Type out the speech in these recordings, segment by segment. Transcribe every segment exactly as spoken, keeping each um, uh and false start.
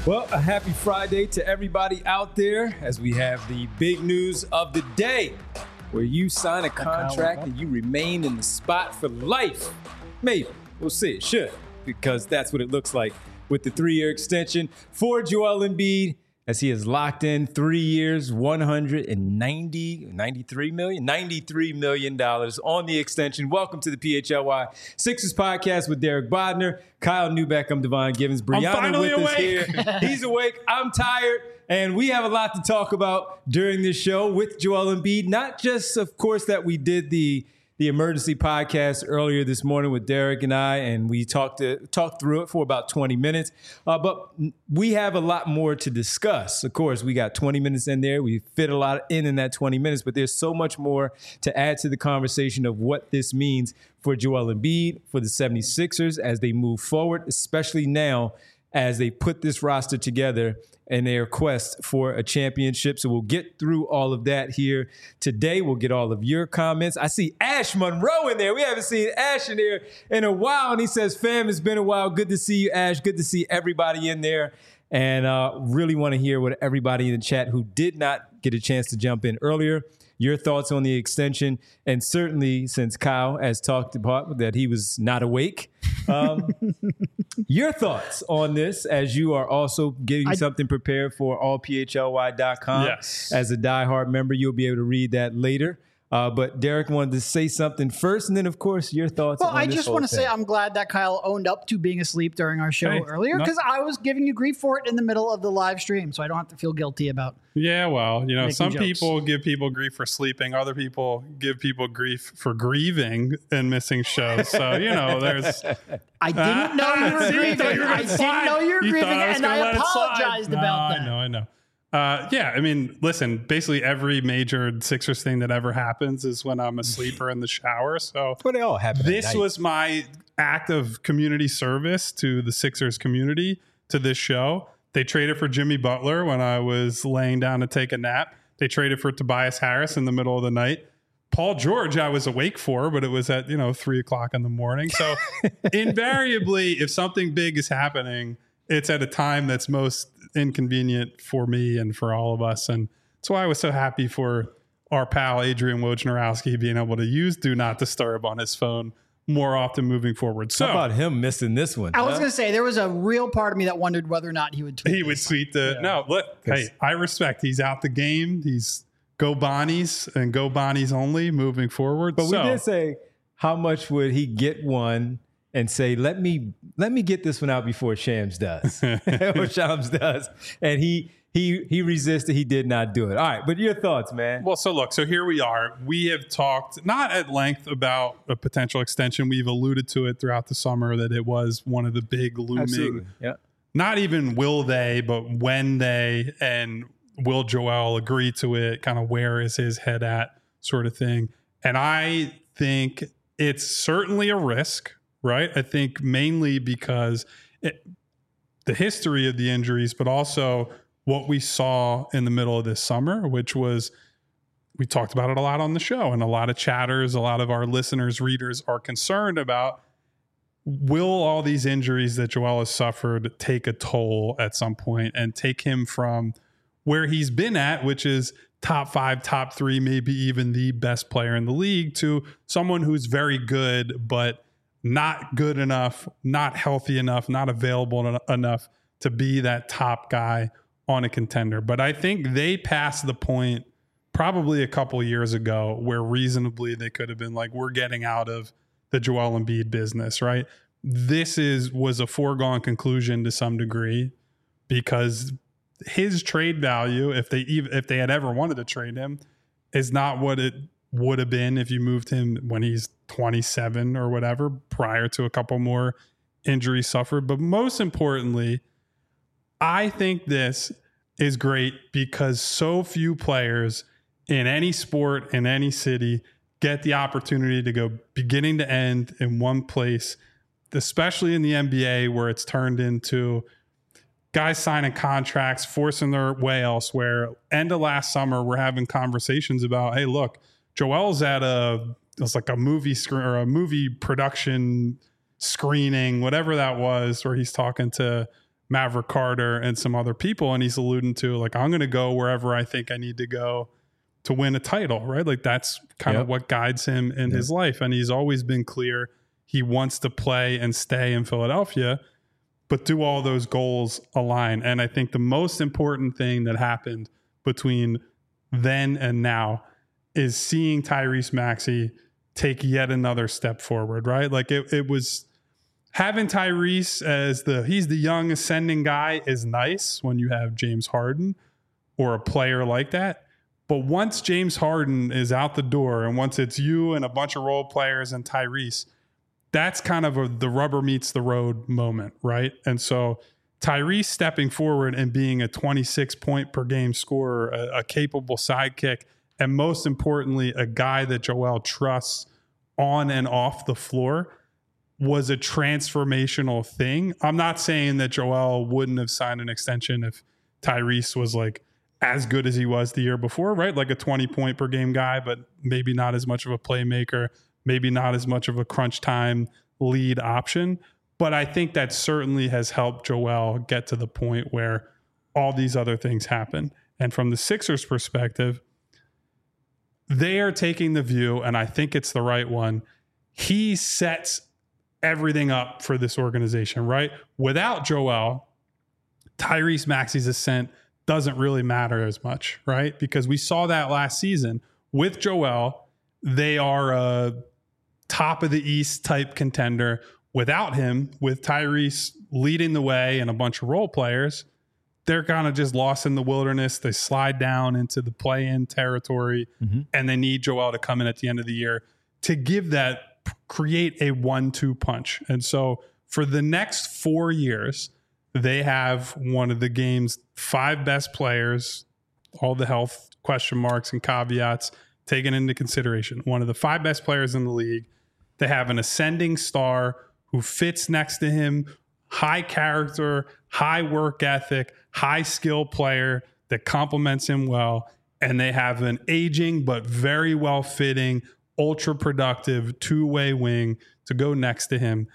Well, a happy Friday to everybody out there as we have the big news of the day where you sign a contract and you remain in the spot for life. Maybe. We'll see. It should, because that's what it looks like with the three-year extension for Joel Embiid as he has locked in three years, one hundred ninety, ninety-three million, ninety-three million dollars on the extension. Welcome to the P H L Y Sixers podcast with Derek Bodner, Kyle Newbeck, I'm Devon Givens, Brianna with us here. He's awake. I'm tired. And we have a lot to talk about during this show with Joel Embiid. Not just, of course, that we did the the emergency podcast earlier this morning with Derek and I, and we talked to, talked through it for about twenty minutes. Uh, but we have a lot more to discuss. Of course, we got twenty minutes in there. We fit a lot in in that twenty minutes, but there's so much more to add to the conversation of what this means for Joel Embiid, for the seventy-sixers as they move forward, especially now as they put this roster together in their quest for a championship. So we'll get through all of that here today. We'll get all of your comments. I see Ash Monroe in there. We haven't seen Ash in there in a while. And he says, fam, it's been a while. Good to see you, Ash. Good to see everybody in there. And uh, really want to hear what everybody in the chat who did not get a chance to jump in earlier, your thoughts on the extension. And certainly, since Kyle has talked about that he was not awake, um, your thoughts on this as you are also getting I, something prepared for all P H L Y dot com. Yes. As a diehard member, you'll be able to read that later. Uh, but Derek wanted to say something first, and then, of course, your thoughts well, on I this just whole want to thing. say I'm glad that Kyle owned up to being asleep during our show hey, earlier, because no. I was giving you grief for it in the middle of the live stream, so I don't have to feel guilty about Yeah, well, you know, making some jokes. people give people grief for sleeping. Other people give people grief for grieving and missing shows. So, you know, there's... I didn't know you were See, grieving. thought you were I gonna didn't slide. know you were You grieving, thought I was and gonna I let it slide. apologized No, about that. I know, I know. Uh, yeah, I mean, listen, basically every major Sixers thing that ever happens is when I'm asleep or in the shower. So But they all happen at this night. was my act of community service to the Sixers community, to this show. They traded for Jimmy Butler when I was laying down to take a nap. They traded for Tobias Harris in the middle of the night. Paul George, I was awake for, but it was at, you know, three o'clock in the morning. So invariably, if something big is happening, it's at a time that's most inconvenient for me and for all of us. And that's why I was so happy for our pal, Adrian Wojnarowski, being able to use Do Not Disturb on his phone more often moving forward. So How about him missing this one? I was huh? going to say, there was a real part of me that wondered whether or not he would tweet he would this. tweet the, Yeah. no, look, hey, I respect. He's out the game. He's go Bonnies and go Bonnies only moving forward. But so, we did say, how much would he get one and say, let me let me get this one out before Shams does, or Shams does, and he he he resisted. He did not do it. All right, but your thoughts, man? Well, so look, so here we are. We have talked not at length about a potential extension. We've alluded to it throughout the summer that it was one of the big looming, Absolutely. Yeah. not even will they, but when they, and will Joel agree to it, kind of where is his head at sort of thing. And I think it's certainly a risk, right? I think mainly because it, the history of the injuries, but also what we saw in the middle of this summer, which was, we talked about it a lot on the show, and a lot of chatters, a lot of our listeners, readers are concerned about, will all these injuries that Joel has suffered take a toll at some point and take him from where he's been at, which is top five, top three, maybe even the best player in the league, to someone who's very good, but not good enough, not healthy enough, not available en- enough to be that top guy on a contender. But I think they passed the point probably a couple years ago where reasonably they could have been like, we're getting out of the Joel Embiid business, right? This is was a foregone conclusion to some degree, because his trade value, if they even if they had ever wanted to trade him, is not what it would have been if you moved him when he's twenty-seven or whatever, prior to a couple more injuries suffered. But most importantly, I think this is great because so few players in any sport, in any city, get the opportunity to go beginning to end in one place, especially in the N B A, where it's turned into guys signing contracts, forcing their way elsewhere. End of last summer, we're having conversations about, hey, look, Joel's at a, it's like a movie screen or a movie production screening, whatever that was, where he's talking to Maverick Carter and some other people. And he's alluding to like, I'm going to go wherever I think I need to go to win a title, right? Like that's kind Yep. of what guides him in Yep. his life. And he's always been clear he wants to play and stay in Philadelphia, but do all those goals align? And I think the most important thing that happened between then and now is seeing Tyrese Maxey take yet another step forward, right? Like it, it was having Tyrese as the, he's the young ascending guy is nice when you have James Harden or a player like that. But once James Harden is out the door and once it's you and a bunch of role players and Tyrese, that's kind of a, the rubber meets the road moment, right? And so Tyrese stepping forward and being a twenty-six point per game scorer, a, a capable sidekick, and most importantly, a guy that Joel trusts on and off the floor was a transformational thing. I'm not saying that Joel wouldn't have signed an extension if Tyrese was like as good as he was the year before, right? Like a twenty point per game guy, but maybe not as much of a playmaker, maybe not as much of a crunch time lead option. But I think that certainly has helped Joel get to the point where all these other things happen. And from the Sixers perspective, they are taking the view, and I think it's the right one. He sets everything up for this organization, right? Without Joel, Tyrese Maxey's ascent doesn't really matter as much, right? Because we saw that last season. With Joel, they are a top of the East type contender. Without him, with Tyrese leading the way and a bunch of role players, they're kind of just lost in the wilderness. They slide down into the play-in territory, mm-hmm. and they need Joel to come in at the end of the year to give that, create a one two punch. And so for the next four years, they have one of the game's five best players, all the health question marks and caveats taken into consideration. One of the five best players in the league. They have an ascending star who fits next to him, high character, high work ethic, high skill player that complements him well. And they have an aging but very well fitting, ultra productive two-way wing to go next to him.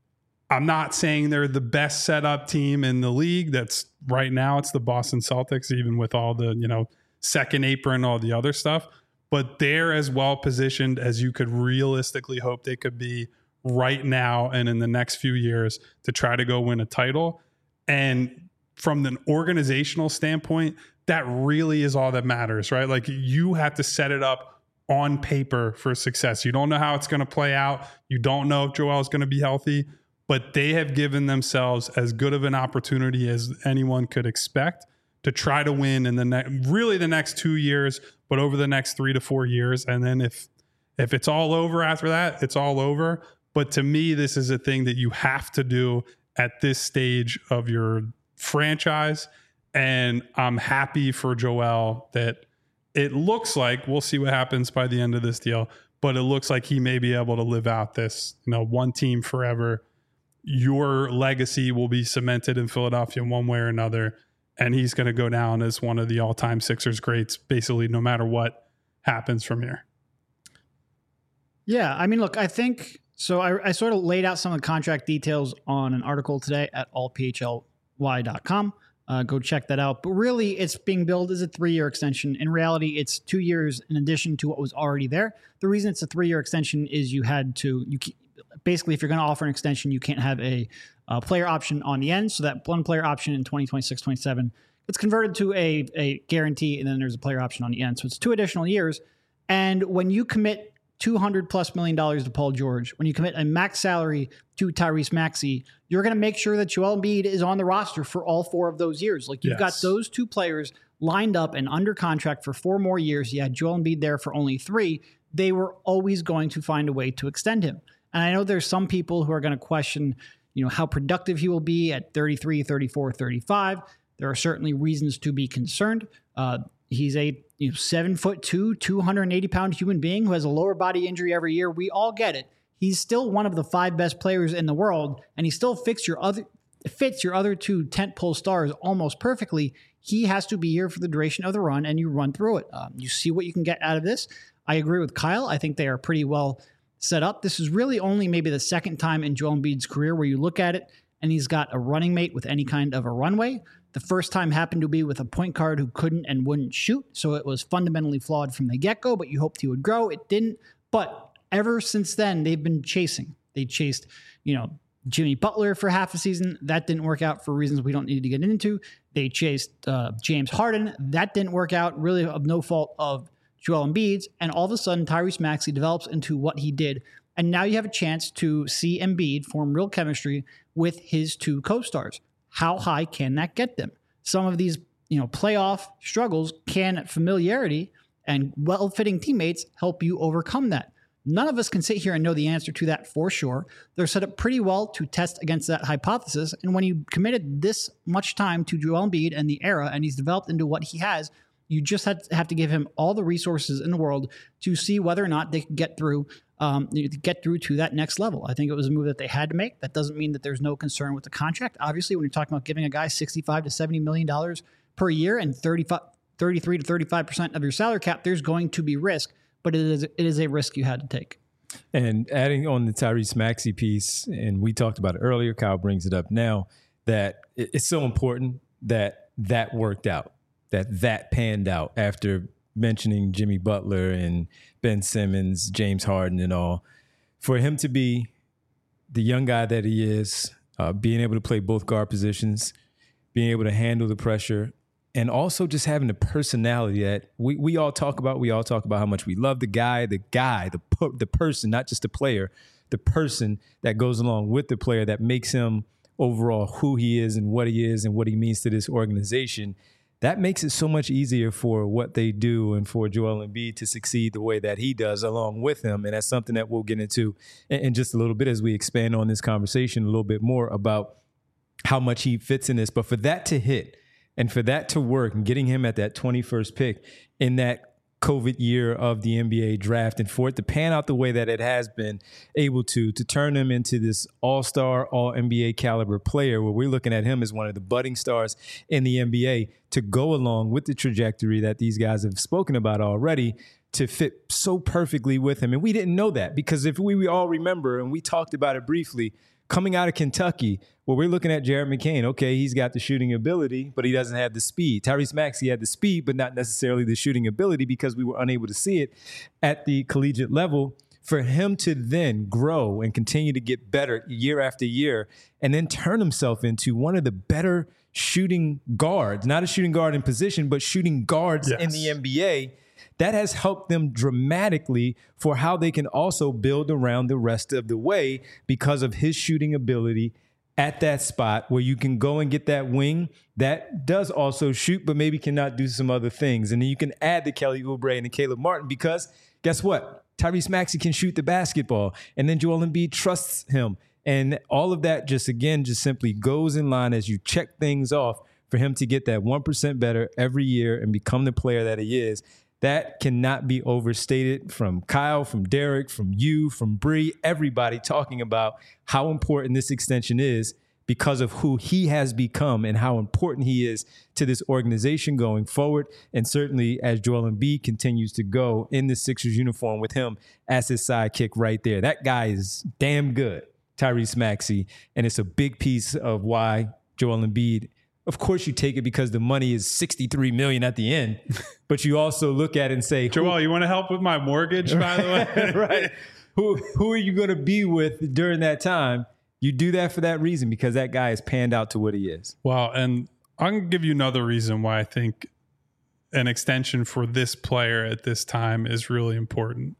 I'm not saying they're the best setup team in the league. That's right now it's the Boston Celtics, even with all the, you know, second apron, all the other stuff. But they're as well positioned as you could realistically hope they could be right now and in the next few years to try to go win a title. And from an organizational standpoint, that really is all that matters, right? Like you have to set it up on paper for success. You don't know how it's going to play out. You don't know if Joel is going to be healthy, but they have given themselves as good of an opportunity as anyone could expect to try to win in the next, really the next two years, but over the next three to four years. And then if, if it's all over after that, it's all over. But to me, this is a thing that you have to do at this stage of your franchise. And I'm happy for Joel that it looks like, we'll see what happens by the end of this deal, but it looks like he may be able to live out this, you know, one team forever. Your legacy will be cemented in Philadelphia in one way or another. And he's going to go down as one of the all-time Sixers greats, basically, no matter what happens from here. Yeah, I mean, look, I think, so I, I sort of laid out some of the contract details on an article today at all p h l y dot com. Uh, go check that out. But really, it's being billed as a three-year extension. In reality, it's two years in addition to what was already there. The reason it's a three-year extension is you had to, you basically, if you're going to offer an extension, you can't have a uh, player option on the end. So that one player option in twenty twenty-six twenty-seven, it's converted to a, a guarantee, and then there's a player option on the end. So it's two additional years. And when you commit two hundred plus million dollars to Paul George, when you commit a max salary to Tyrese Maxey, you're going to make sure that Joel Embiid is on the roster for all four of those years. Like you've yes. got those two players lined up and under contract for four more years. You had Joel Embiid there for only three. They were always going to find a way to extend him. And I know there's some people who are going to question, you know, how productive he will be at thirty-three, thirty-four, thirty-five. There are certainly reasons to be concerned. Uh, he's a you know, seven foot two, two hundred eighty pound human being who has a lower body injury every year. We all get it. He's still one of the five best players in the world, and he still fits your other fits your other two tentpole stars almost perfectly. He has to be here for the duration of the run, and you run through it. Um, you see what you can get out of this. I agree with Kyle. I think they are pretty well set up. This is really only maybe the second time in Joel Embiid's career where you look at it and he's got a running mate with any kind of a runway. The first time happened to be with a point guard who couldn't and wouldn't shoot, so it was fundamentally flawed from the get-go, but you hoped he would grow. It didn't. But ever since then, they've been chasing. They chased, you know, Jimmy Butler for half a season. That didn't work out for reasons we don't need to get into. They chased uh, James Harden. That didn't work out, really of no fault of Joel Embiid's. And all of a sudden, Tyrese Maxey develops into what he did. And now you have a chance to see Embiid form real chemistry with his two co-stars. How high can that get them? Some of these, you know, playoff struggles can familiarity and well-fitting teammates help you overcome that. None of us can sit here and know the answer to that for sure. They're set up pretty well to test against that hypothesis. And when you committed this much time to Joel Embiid and the era, and he's developed into what he has, you just have to, have to give him all the resources in the world to see whether or not they can get through um, get through to that next level. I think it was a move that they had to make. That doesn't mean that there's no concern with the contract. Obviously, when you're talking about giving a guy sixty-five to seventy million dollars per year and thirty-five, thirty-three to thirty-five percent of your salary cap, there's going to be risk, but it is it is a risk you had to take. And adding on the Tyrese Maxey piece, and we talked about it earlier, Kyle brings it up now, that it's so important that that worked out, that that panned out after mentioning Jimmy Butler and Ben Simmons, James Harden and all. For him to be the young guy that he is, uh, being able to play both guard positions, being able to handle the pressure, and also just having the personality that we, we all talk about. We all talk about how much we love the guy, the guy, the the person, not just the player, the person that goes along with the player that makes him overall who he is and what he is and what he means to this organization. That makes it so much easier for what they do and for Joel Embiid to succeed the way that he does along with him. And that's something that we'll get into in, in just a little bit as we expand on this conversation a little bit more about how much he fits in this. But for that to hit, and for that to work and getting him at that twenty-first pick in that COVID year of the N B A draft, and for it to pan out the way that it has been able to, to turn him into this all-star, all-N B A caliber player where we're looking at him as one of the budding stars in the N B A to go along with the trajectory that these guys have spoken about already to fit so perfectly with him. And we didn't know that because if we, we all remember, and we talked about it briefly, coming out of Kentucky, well, we're looking at Jared McCain. Okay, he's got the shooting ability, but he doesn't have the speed. Tyrese Maxey had the speed, but not necessarily the shooting ability because we were unable to see it at the collegiate level. For him to then grow and continue to get better year after year and then turn himself into one of the better shooting guards, not a shooting guard in position, but shooting guards yes. in the N B A, that has helped them dramatically for how they can also build around the rest of the way because of his shooting ability at that spot where you can go and get that wing that does also shoot, but maybe cannot do some other things. And then you can add the Kelly Oubre and the Caleb Martin because guess what? Tyrese Maxey can shoot the basketball and then Joel Embiid trusts him. And all of that just, again, just simply goes in line as you check things off for him to get that one percent better every year and become the player that he is. That cannot be overstated from Kyle, from Derek, from you, from Bree, everybody talking about how important this extension is because of who he has become and how important he is to this organization going forward. And certainly as Joel Embiid continues to go in the Sixers uniform with him as his sidekick right there. That guy is damn good, Tyrese Maxey. And it's a big piece of why Joel Embiid, of course you take it because the money is sixty-three million dollars at the end, but you also look at it and say, Joel, you want to help with my mortgage, by the way? Right. Who, who are you going to be with during that time? You do that for that reason because that guy has panned out to what he is. Well, and I'm going to give you another reason why I think an extension for this player at this time is really important.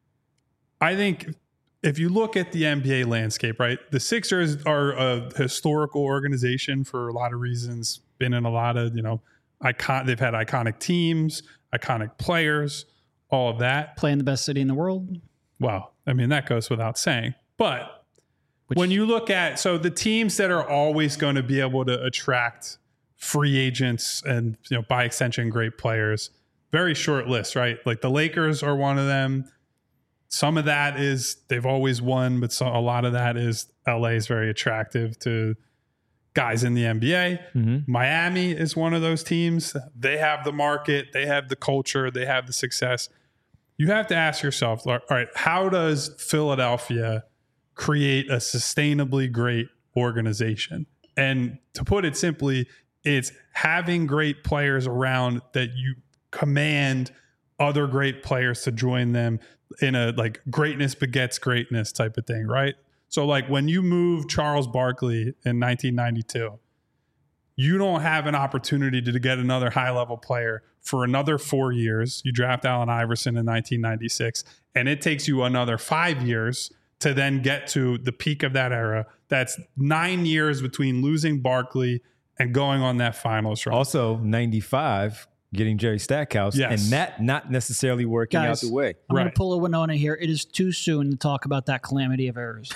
I think if you look at the N B A landscape, right, the Sixers are a historical organization for a lot of reasons, been in a lot of, you know, icon. They've had iconic teams, iconic players, all of that. Playing the best city in the world. Well, I mean, that goes without saying. But Which, when you look at, so the teams that are always going to be able to attract free agents and, you know, by extension, great players, very short list, right? Like the Lakers are one of them. Some of that is they've always won, but so, a lot of that is L A is very attractive to guys in the N B A. Mm-hmm. Miami is one of those teams. They have the market, they have the culture, they have the success. You have to ask yourself, all right, how does Philadelphia create a sustainably great organization. And to put it simply, it's having great players around that you command other great players to join them in a like greatness begets greatness type of thing, right? So like when you move Charles Barkley in nineteen ninety-two, you don't have an opportunity to get another high-level player for another four years. You draft Allen Iverson in nineteen ninety-six, and it takes you another five years to then get to the peak of that era. That's nine years between losing Barkley and going on that finals run. Also, ninety-five, getting Jerry Stackhouse, yes. and that not necessarily working Guys, out the way. I'm Right. going to pull a Winona here. It is too soon to talk about that calamity of errors.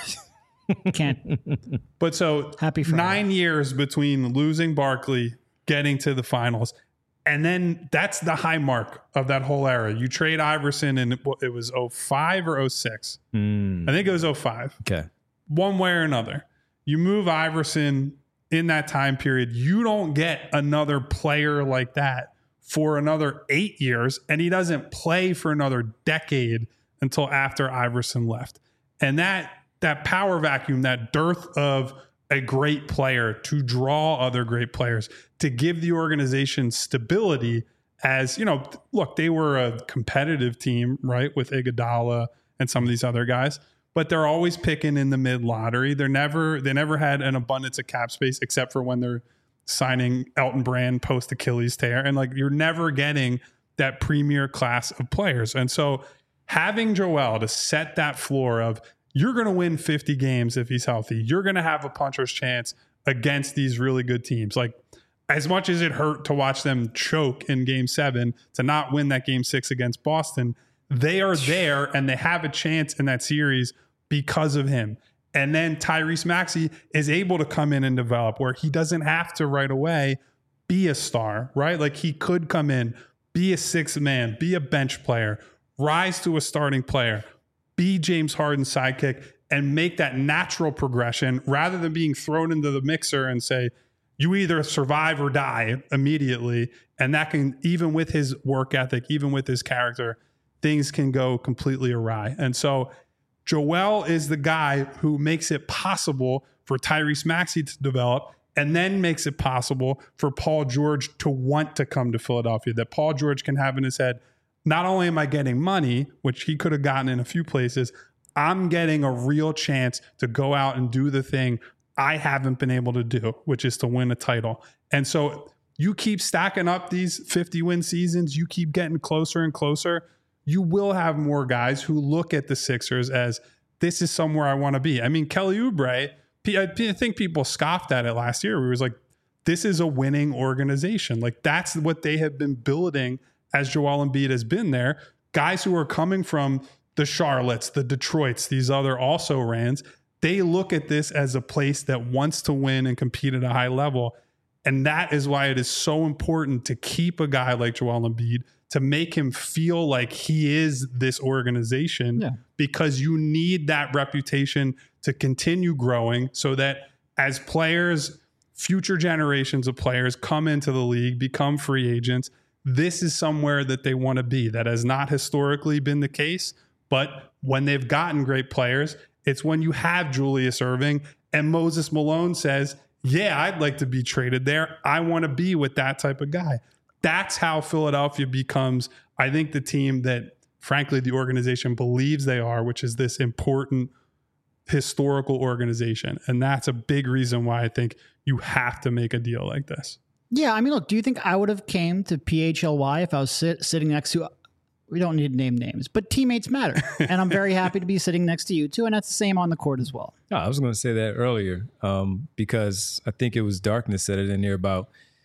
Can't. But so Happy Friday. nine years between losing Barkley, getting to the finals, and then that's the high mark of that whole era. You trade Iverson, and it, it was oh five or oh six. Mm, I think it was oh five. okay. One way or another. You move Iverson in that time period. You don't get another player like that for another eight years, and he doesn't play for another decade until after Iverson left. And that that power vacuum, that dearth of a great player to draw other great players, to give the organization stability as, you know, look, they were a competitive team, right, with Iguodala and some of these other guys, but they're always picking in the mid lottery. They're never, they never had an abundance of cap space except for when they're signing Elton Brand post Achilles tear. And like, you're never getting that premier class of players. And so having Joel to set that floor of, you're going to win fifty games if he's healthy. You're going to have a puncher's chance against these really good teams. Like, as much as it hurt to watch them choke in game seven to not win that game six against Boston, they are there and they have a chance in that series because of him. And then Tyrese Maxey is able to come in and develop where he doesn't have to right away be a star, right? Like, he could come in, be a sixth man, be a bench player, rise to a starting player, be James Harden's sidekick, and make that natural progression rather than being thrown into the mixer and say, you either survive or die immediately. And that can, even with his work ethic, even with his character, things can go completely awry. And so Joel is the guy who makes it possible for Tyrese Maxey to develop, and then makes it possible for Paul George to want to come to Philadelphia, that Paul George can have in his head, not only am I getting money, which he could have gotten in a few places, I'm getting a real chance to go out and do the thing I haven't been able to do, which is to win a title. And so you keep stacking up these fifty win seasons, you keep getting closer and closer, you will have more guys who look at the Sixers as, this is somewhere I want to be. I mean, Kelly Oubre, I think people scoffed at it last year. We was like, this is a winning organization. Like, that's what they have been building as Joel Embiid has been there. Guys who are coming from the Charlottes, the Detroits, these other also-rans, they look at this as a place that wants to win and compete at a high level. And that is why it is so important to keep a guy like Joel Embiid, to make him feel like he is this organization, yeah. because you need that reputation to continue growing so that as players, future generations of players come into the league, become free agents, this is somewhere that they want to be. That has not historically been the case, but when they've gotten great players, it's when you have Julius Erving and Moses Malone says, yeah, I'd like to be traded there. I want to be with that type of guy. That's how Philadelphia becomes, I think, the team that, frankly, the organization believes they are, which is this important historical organization. And that's a big reason why I think you have to make a deal like this. Yeah, I mean, look, do you think I would have came to P H L Y if I was sit, sitting next to, we don't need to name names, but teammates matter. And I'm very happy to be sitting next to you too. And that's the same on the court as well. No, I was going to say that earlier um, because I think it was Darkness said it in there about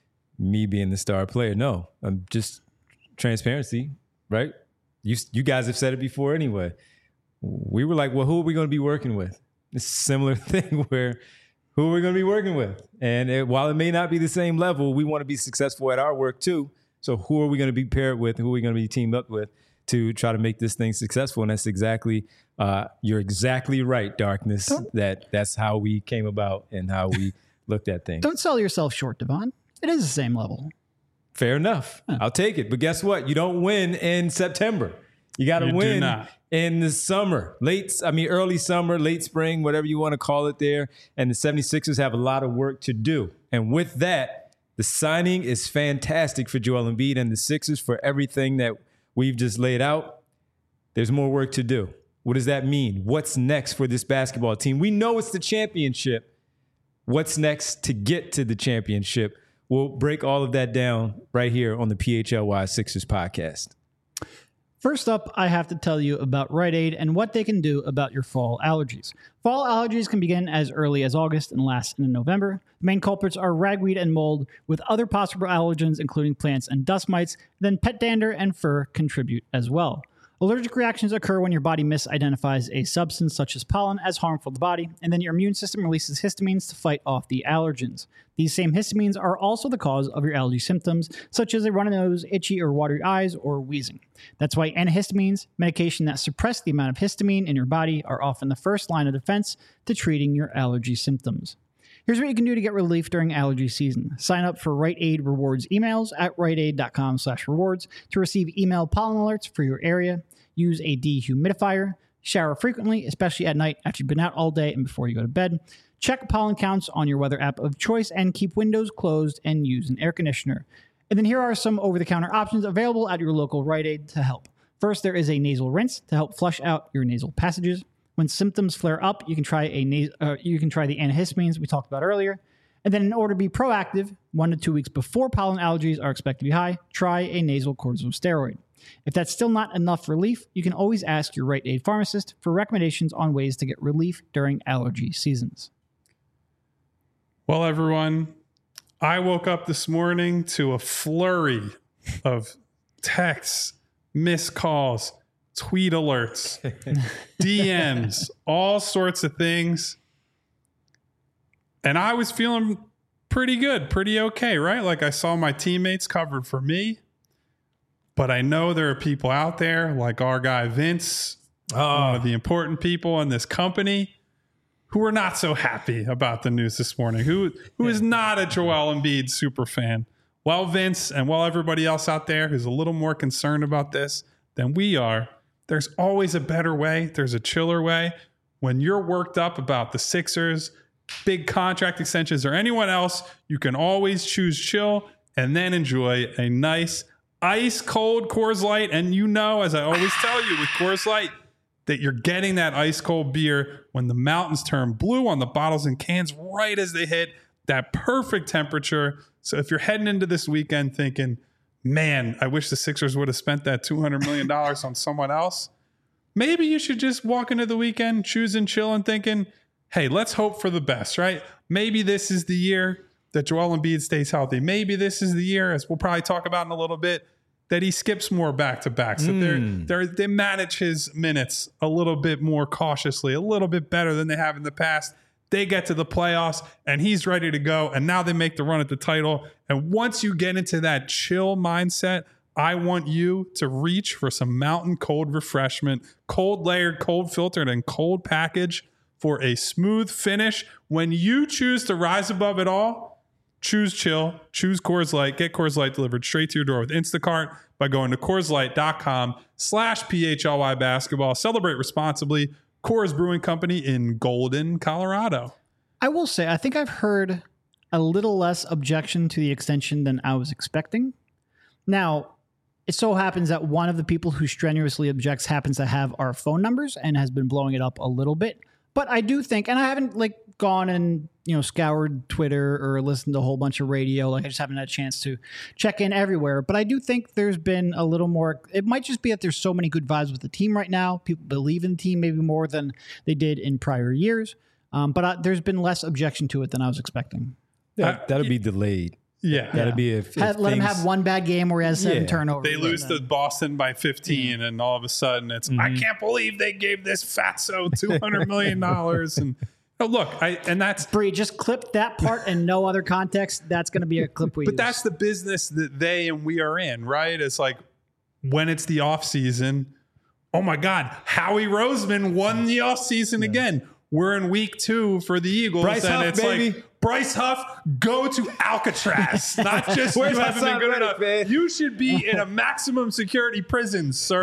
me being the star player. No, I'm just transparency, right? You you guys have said it before anyway. We were like, well, who are we going to be working with? It's a similar thing where who are we going to be working with? And it, while it may not be the same level, we want to be successful at our work too. So who are we going to be paired with? Who are we going to be teamed up with to try to make this thing successful? And that's exactly, uh, you're exactly right, Darkness, don't, that that's how we came about and how we looked at things. Don't sell yourself short, Devon. It is the same level. Fair enough. Huh. I'll take it. But guess what? You don't win in September. You got to You do win not. in the summer, late, I mean, early summer, late spring, whatever you want to call it there. And the seventy-sixers have a lot of work to do. And with that, the signing is fantastic for Joel Embiid and the Sixers for everything that we've just laid out. There's more work to do. What does that mean? What's next for this basketball team? We know it's the championship. What's next to get to the championship? We'll break all of that down right here on the P H L Y Sixers podcast. First up, I have to tell you about Rite Aid and what they can do about your fall allergies. Fall allergies can begin as early as August and last into November. The main culprits are ragweed and mold, with other possible allergens including plants and dust mites. Then pet dander and fur contribute as well. Allergic reactions occur when your body misidentifies a substance such as pollen as harmful to the body, and then your immune system releases histamines to fight off the allergens. These same histamines are also the cause of your allergy symptoms, such as a runny nose, itchy or watery eyes, or wheezing. That's why antihistamines, medication that suppress the amount of histamine in your body, are often the first line of defense to treating your allergy symptoms. Here's what you can do to get relief during allergy season. Sign up for Rite Aid Rewards emails at riteaid.com slash rewards to receive email pollen alerts for your area. Use a dehumidifier. Shower frequently, especially at night after you've been out all day and before you go to bed. Check pollen counts on your weather app of choice and keep windows closed and use an air conditioner. And then here are some over-the-counter options available at your local Rite Aid to help. First, there is a nasal rinse to help flush out your nasal passages. When symptoms flare up, you can try a nas- uh, you can try the antihistamines we talked about earlier. And then in order to be proactive, one to two weeks before pollen allergies are expected to be high, try a nasal corticosteroid. If that's still not enough relief, you can always ask your Rite Aid pharmacist for recommendations on ways to get relief during allergy seasons. Well, everyone, I woke up this morning to a flurry of texts, missed calls, tweet alerts, D Ms, all sorts of things. And I was feeling pretty good, pretty okay, right? Like I saw my teammates covered for me. But I know there are people out there like our guy Vince, Oh. one of the important people in this company, who are not so happy about the news this morning, who who is not a Joel Embiid super fan. Well, Vince, and while everybody else out there who's a little more concerned about this than we are, there's always a better way. There's a chiller way. When you're worked up about the Sixers, big contract extensions, or anyone else, you can always choose chill and then enjoy a nice ice cold Coors Light. And you know, as I always tell you with Coors Light, that you're getting that ice cold beer when the mountains turn blue on the bottles and cans right as they hit that perfect temperature. So if you're heading into this weekend thinking, man, I wish the Sixers would have spent that two hundred million dollars on someone else, maybe you should just walk into the weekend, choose and chill and thinking, hey, let's hope for the best, right? Maybe this is the year that Joel Embiid stays healthy. Maybe this is the year, as we'll probably talk about in a little bit, that he skips more back-to-backs, that Mm. they're, they're, they manage his minutes a little bit more cautiously, a little bit better than they have in the past. They get to the playoffs, and he's ready to go, and now they make the run at the title. And once you get into that chill mindset, I want you to reach for some mountain cold refreshment, cold layered, cold filtered, and cold package for a smooth finish. When you choose to rise above it all, choose chill, choose Coors Light, get Coors Light delivered straight to your door with Instacart by going to CoorsLight.com slash PHLY basketball. Celebrate responsibly. Coors Brewing Company in Golden, Colorado. I will say, I think I've heard a little less objection to the extension than I was expecting. Now, it so happens that one of the people who strenuously objects happens to have our phone numbers and has been blowing it up a little bit. But I do think, and I haven't like gone and, you know, scoured Twitter or listened to a whole bunch of radio. Like I just haven't had a chance to check in everywhere. But I do think there's been a little more, it might just be that there's so many good vibes with the team right now. People believe in the team maybe more than they did in prior years. Um, but I, there's been less objection to it than I was expecting. That, Uh, that'll be delayed. Yeah. That'll be if, if Had- let him things- have one bad game where he has seven Yeah. turnovers. They lose to Boston by fifteen, and all of a sudden it's, I can't believe they gave this fatso two hundred million dollars. And oh, look, I and that's Bree, just clip that part and no other context. That's going to be a clip we but use. that's the business that they and we are in, right? It's like when it's the off season, oh my God, Howie Roseman won the off season again. We're in week two for the Eagles, Bryce and Huff, it's baby. like Bryce Huff, go to Alcatraz. Not just Where's you my haven't been son good Reddick, enough. man? You should be in a maximum security prison, sir.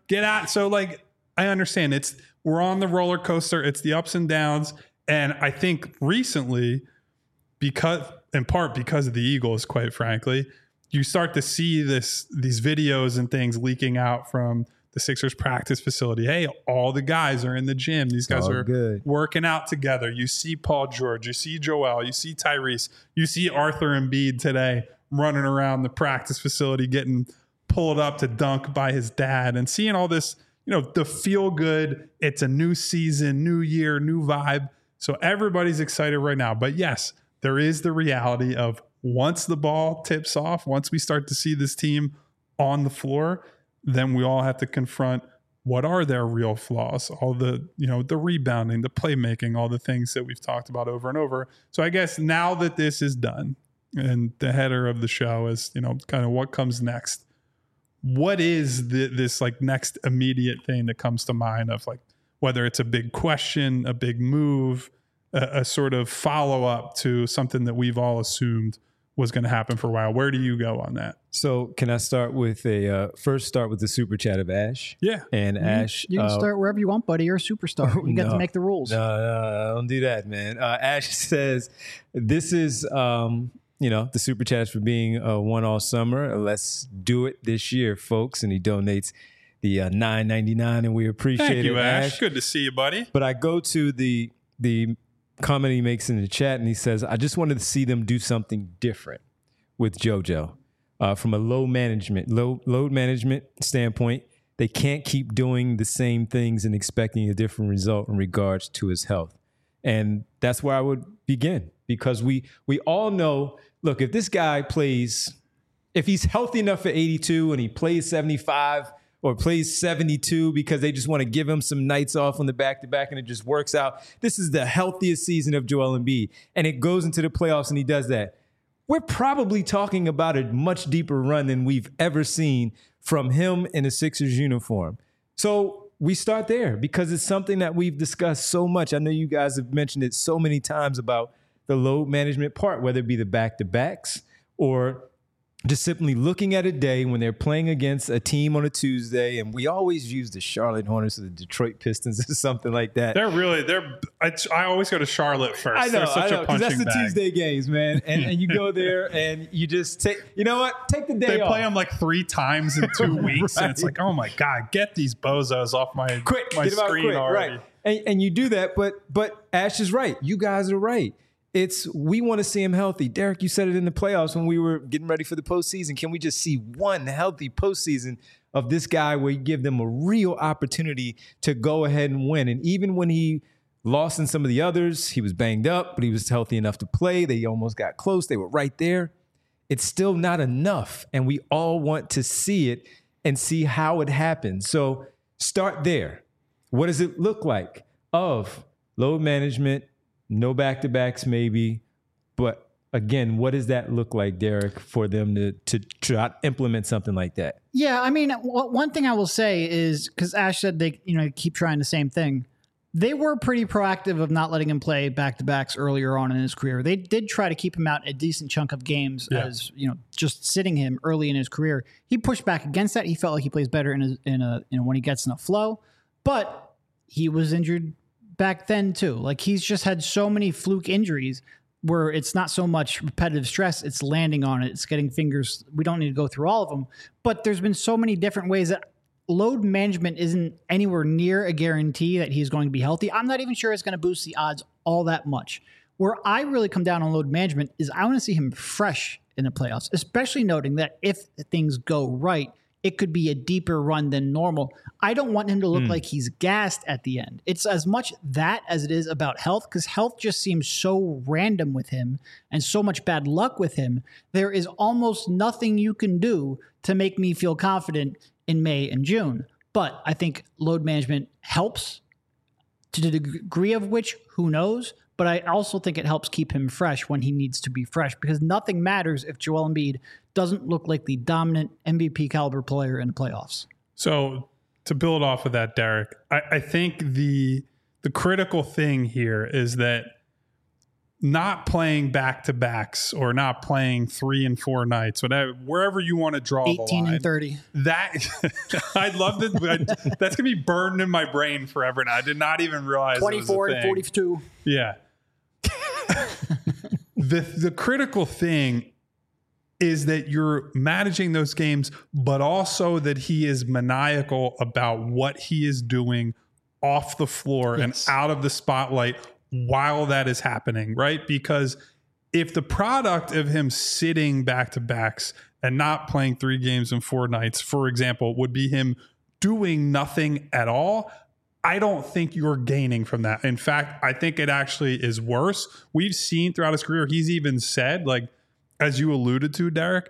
get out. So like, I understand it's, we're on the roller coaster. It's the ups and downs. And I think recently, because in part because of the Eagles, quite frankly, you start to see this, these videos and things leaking out from the Sixers practice facility. Hey, all the guys are in the gym. These guys all are good. working out together. You see Paul George, you see Joel, you see Tyrese, you see Arthur Embiid today running around the practice facility, getting pulled up to dunk by his dad, and seeing all this, you know, the feel good. It's a new season, new year, new vibe. So everybody's excited right now. But yes, there is the reality of once the ball tips off, once we start to see this team on the floor, then we all have to confront what are their real flaws, all the, you know, the rebounding, the playmaking, all the things that we've talked about over and over. So I guess now that this is done, and the header of the show is, you know, kind of what comes next. What is the, this like next immediate thing that comes to mind of like, whether it's a big question, a big move, a, a sort of follow up to something that we've all assumed was going to happen for a while. Where do you go on that? So can I start with a uh, first start with the super chat of Ash? Yeah. And You- Ash, You can uh, start wherever you want, buddy. You're a superstar. You get no. to make the rules. No, no, don't do that, man. Uh, Ash says, "This is, um, you know, the super chats for being uh, one all summer. Let's do it this year, folks." And he donates the uh, nine ninety-nine, and we appreciate Thank it, you, Ash. Ash. Good to see you, buddy. But I go to the the comment he makes in the chat, and he says, "I just wanted to see them do something different with JoJo uh, from a low management, low load management standpoint. They can't keep doing the same things and expecting a different result in regards to his health." And that's where I would begin, because we we all know, look, if this guy plays, if he's healthy enough for eighty-two and he plays seventy-five or plays seventy-two because they just want to give him some nights off on the back-to-back and it just works out, this is the healthiest season of Joel Embiid, and it goes into the playoffs and he does that, we're probably talking about a much deeper run than we've ever seen from him in a Sixers uniform. So we start there because it's something that we've discussed so much. I know you guys have mentioned it so many times about the load management part, whether it be the back-to-backs or just simply looking at a day when they're playing against a team on a Tuesday. And we always use the Charlotte Hornets or the Detroit Pistons or something like that. They're really, they're, I, I always go to Charlotte first. I know, They're such I know, a 'cause punching that's the bag. Tuesday games, man. And, and you go there and you just take, you know what? Take the day They off. play them like three times in two weeks, and it's Right. like, oh my god, get these bozos off my quick, my get 'em out screen quick, already. right? And, and you do that, but but Ash is right. You guys are right. It's we want to see him healthy. Derek, you said it in the playoffs when we were getting ready for the postseason. Can we just see one healthy postseason of this guy where you give them a real opportunity to go ahead and win? And even when he lost in some of the others, he was banged up, but he was healthy enough to play. They almost got close. They were right there. It's still not enough, and we all want to see it and see how it happens. So start there. What does it look like? Of load management, no back-to-backs maybe, but again, what does that look like, Derek, for them to to try to implement something like that? Yeah, I mean, w- one thing I will say is, because Ash said they, you know, keep trying the same thing. They were pretty proactive of not letting him play back-to-backs earlier on in his career. They did try to keep him out a decent chunk of games Yeah. as, you know, just sitting him early in his career. He pushed back against that. He felt like he plays better in a, in a, you know, when he gets in a flow, but he was injured back then too. Like he's just had so many fluke injuries where it's not so much repetitive stress, it's landing on it, it's getting fingers. We don't need to go through all of them, but there's been so many different ways that load management isn't anywhere near a guarantee that he's going to be healthy. I'm not even sure it's going to boost the odds all that much. Where I really come down on load management is I want to see him fresh in the playoffs, especially noting that if things go right, it could be a deeper run than normal. I don't want him to look Mm. like he's gassed at the end. It's as much that as it is about health, because health just seems so random with him and so much bad luck with him. There is almost nothing you can do to make me feel confident in May and June. But I think load management helps, to the degree of which, who knows? But I also think it helps keep him fresh when he needs to be fresh, because nothing matters if Joel Embiid doesn't look like the dominant M V P caliber player in the playoffs. So to build off of that, Derek, I, I think the the critical thing here is that not playing back to backs or not playing three and four nights, whatever, wherever you want to draw the line. eighteen and thirty. That I'd love to. That's gonna be burned in my brain forever. Now I did not even realize twenty-four it was a and thing. forty-two. Yeah. the the critical thing is that you're managing those games, but also that he is maniacal about what he is doing off the floor Yes. and out of the spotlight while that is happening, right? Because if the product of him sitting back to backs and not playing three games in four nights, for example, would be him doing nothing at all, I don't think you're gaining from that. In fact, I think it actually is worse. We've seen throughout his career, he's even said, like, as you alluded to, Derek,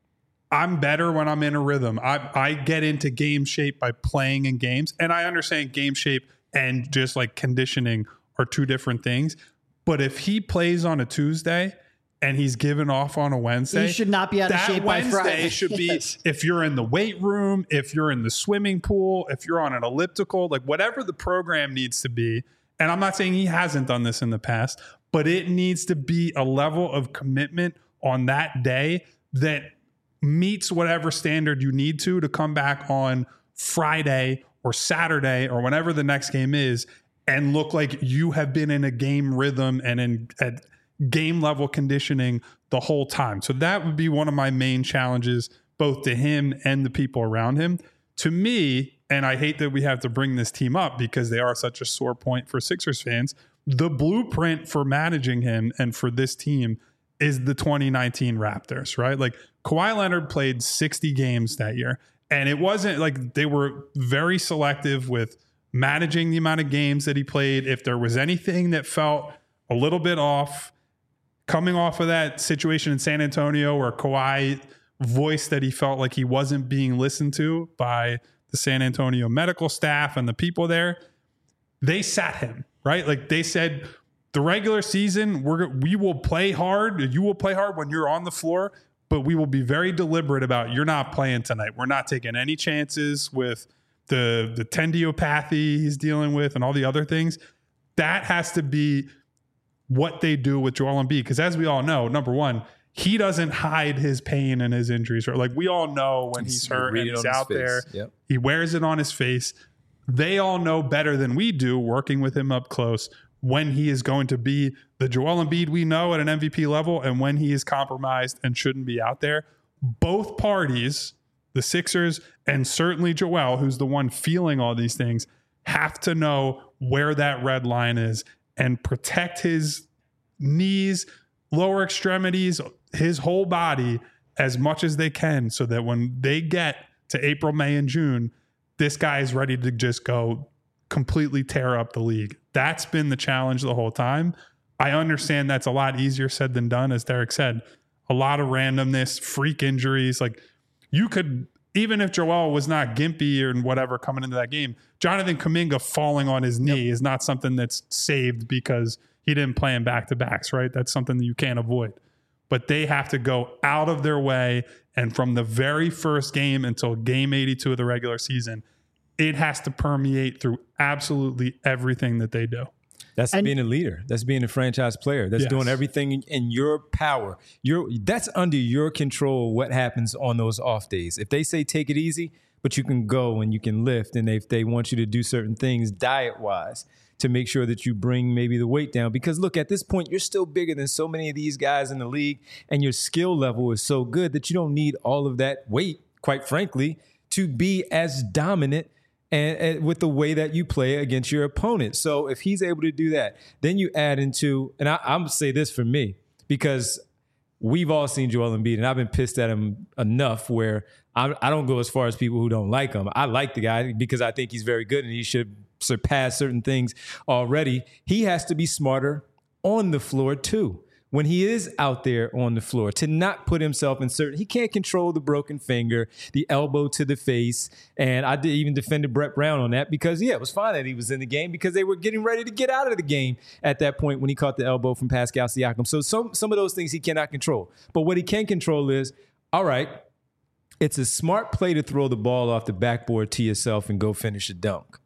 I'm better when I'm in a rhythm. I, I get into game shape by playing in games. And I understand game shape and just like conditioning are two different things. But if he plays on a Tuesday and he's given off on a Wednesday, He should not be out of that shape by Wednesday Friday. should be Yes. if you're in the weight room, if you're in the swimming pool, if you're on an elliptical, like whatever the program needs to be. And I'm not saying he hasn't done this in the past, but it needs to be a level of commitment on that day that meets whatever standard you need to to come back on Friday or Saturday or whenever the next game is and look like you have been in a game rhythm and in at game level conditioning the whole time. So that would be one of my main challenges, both to him and the people around him. To me, and I hate that we have to bring this team up because they are such a sore point for Sixers fans, the blueprint for managing him and for this team is the twenty nineteen Raptors, right? Like Kawhi Leonard played sixty games that year, and it wasn't like they were very selective with managing the amount of games that he played. If there was anything that felt a little bit off, coming off of that situation in San Antonio where Kawhi voiced that he felt like he wasn't being listened to by the San Antonio medical staff and the people there, they sat him, right? Like they said, the regular season, we're we will play hard. You will play hard when you're on the floor, but we will be very deliberate about you're not playing tonight. We're not taking any chances with the the tendiopathy he's dealing with and all the other things. That has to be what they do with Joel Embiid, because as we all know, number one, he doesn't hide his pain and his injuries. Right? Like we all know when he's hurt and he's out there, Yep. he wears it on his face. They all know better than we do, working with him up close, when he is going to be the Joel Embiid we know at an M V P level and when he is compromised and shouldn't be out there. Both parties, the Sixers and certainly Joel, who's the one feeling all these things, have to know where that red line is and protect his knees, lower extremities, his whole body as much as they can so that when they get to April, May, and June, this guy is ready to just go completely tear up the league. That's been the challenge the whole time. I understand that's a lot easier said than done, as Derek said. A lot of randomness, freak injuries. Like you could, even if Joel was not gimpy or whatever coming into that game, Jonathan Kuminga falling on his knee yep. is not something that's saved because he didn't play in back-to-backs, right? That's something that you can't avoid. But they have to go out of their way, and from the very first game until game eighty-two of the regular season, it has to permeate through absolutely everything that they do. That's And- being a leader. That's being a franchise player. That's Yes. doing everything in, in your power. Your that's under your control what happens on those off days. If they say take it easy, but you can go and you can lift, and if they want you to do certain things diet-wise to make sure that you bring maybe the weight down. Because look, at this point, you're still bigger than so many of these guys in the league, and your skill level is so good that you don't need all of that weight, quite frankly, to be as dominant And, and with the way that you play against your opponent. So if he's able to do that, then you add into, and I, I'm going to say this for me, because we've all seen Joel Embiid, and I've been pissed at him enough where I, I don't go as far as people who don't like him. I like the guy because I think he's very good and he should surpass certain things already. He has to be smarter on the floor too. When he is out there on the floor, to not put himself in certain, he can't control the broken finger, the elbow to the face. And I did even defended Brett Brown on that because, yeah, it was fine that he was in the game because they were getting ready to get out of the game at that point when he caught the elbow from Pascal Siakam. So some, some of those things he cannot control. But what he can control is, all right, it's a smart play to throw the ball off the backboard to yourself and go finish a dunk.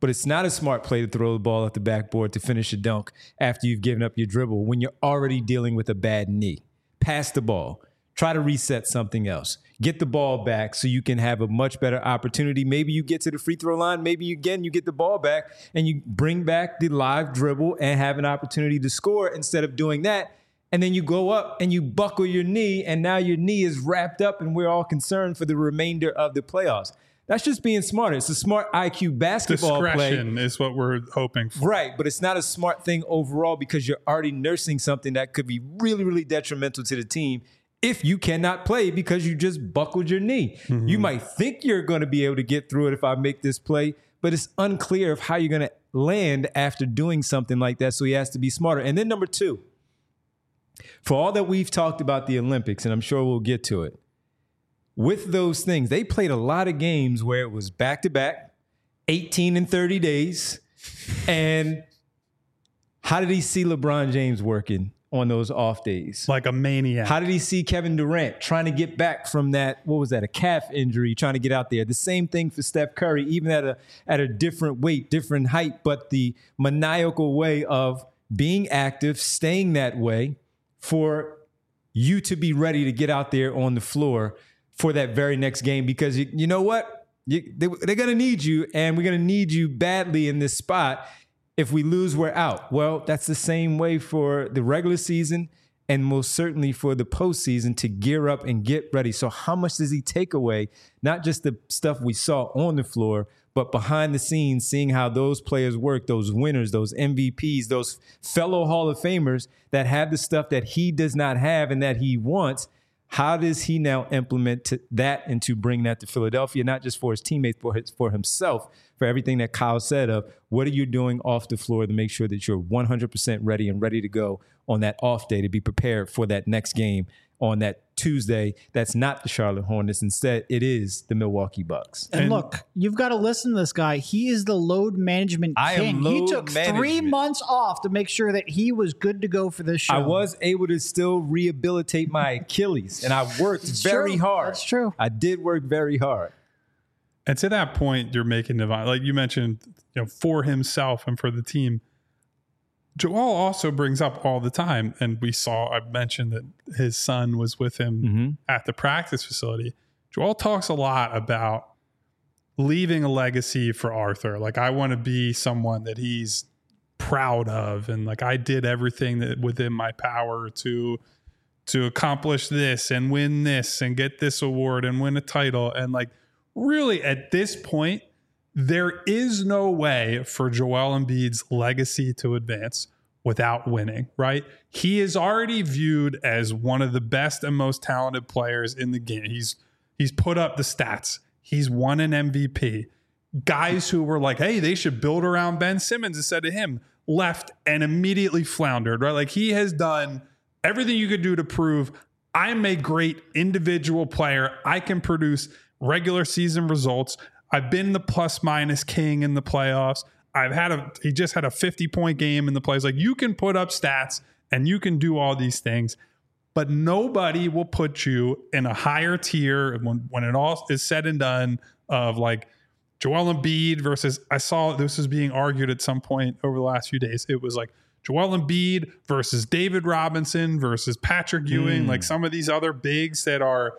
but it's not a smart play to throw the ball at the backboard to finish a dunk after you've given up your dribble when you're already dealing with a bad knee. Pass the ball. Try to reset something else. Get the ball back so you can have a much better opportunity. Maybe you get to the free throw line. Maybe, you, again, you get the ball back and you bring back the live dribble and have an opportunity to score instead of doing that. And then you go up and you buckle your knee, and now your knee is wrapped up, and we're all concerned for the remainder of the playoffs. That's just being smarter. It's a smart I Q basketball play. Discretion is what we're hoping for. Right, but it's not a smart thing overall because you're already nursing something that could be really, really detrimental to the team if you cannot play because you just buckled your knee. Mm-hmm. You might think you're going to be able to get through it if I make this play, but it's unclear of how you're going to land after doing something like that, so he has to be smarter. And then number two, for all that we've talked about the Olympics, and I'm sure we'll get to it, with those things, they played a lot of games where it was back-to-back, eighteen in thirty days. And how did he see LeBron James working on those off days? Like a maniac. How did he see Kevin Durant trying to get back from that, what was that, a calf injury, trying to get out there? The same thing for Steph Curry, even at a at a different weight, different height, but the maniacal way of being active, staying that way, for you to be ready to get out there on the floor for that very next game, because you, you know what? You, they, they're going to need you, and we're going to need you badly in this spot. If we lose, we're out. Well, that's the same way for the regular season and most certainly for the postseason to gear up and get ready. So how much does he take away? Not just the stuff we saw on the floor, but behind the scenes, seeing how those players work, those winners, those M V Ps, those fellow Hall of Famers that have the stuff that he does not have and that he wants. How does he now implement to that and to bring that to Philadelphia, not just for his teammates, for his, for himself, for everything that Kyle said of what are you doing off the floor to make sure that you're one hundred percent ready and ready to go on that off day to be prepared for that next game on that Tuesday. That's not the Charlotte Hornets. Instead, it is the Milwaukee Bucks. And, and look, you've got to listen to this guy. He is the load management I king. Am load he took management. three months off to make sure that he was good to go for this show. I was able to still rehabilitate my Achilles, and I worked it's very true. hard. That's true. I did work very hard. And to that point, you're making divine, like you mentioned, you know, for himself and for the team. Joel also brings up all the time, and we saw, I mentioned that his son was with him mm-hmm. at the practice facility. Joel talks a lot about leaving a legacy for Arthur. Like, I want to be someone that he's proud of, and like I did everything that within my power to to accomplish this and win this and get this award and win a title. And like, really at this point, there is no way for Joel Embiid's legacy to advance without winning, right? He is already viewed as one of the best and most talented players in the game. He's he's put up the stats. He's won an M V P. Guys who were like, hey, they should build around Ben Simmons instead of him, left and immediately floundered, right? Like, he has done everything you could do to prove I'm a great individual player. I can produce regular season results. I've been the plus minus king in the playoffs. I've had a, he just had a fifty point game in the playoffs. Like, you can put up stats and you can do all these things, but nobody will put you in a higher tier when, when it all is said and done of like Joel Embiid versus, I saw this was being argued at some point over the last few days. It was like Joel Embiid versus David Robinson versus Patrick Ewing, mm. like some of these other bigs that are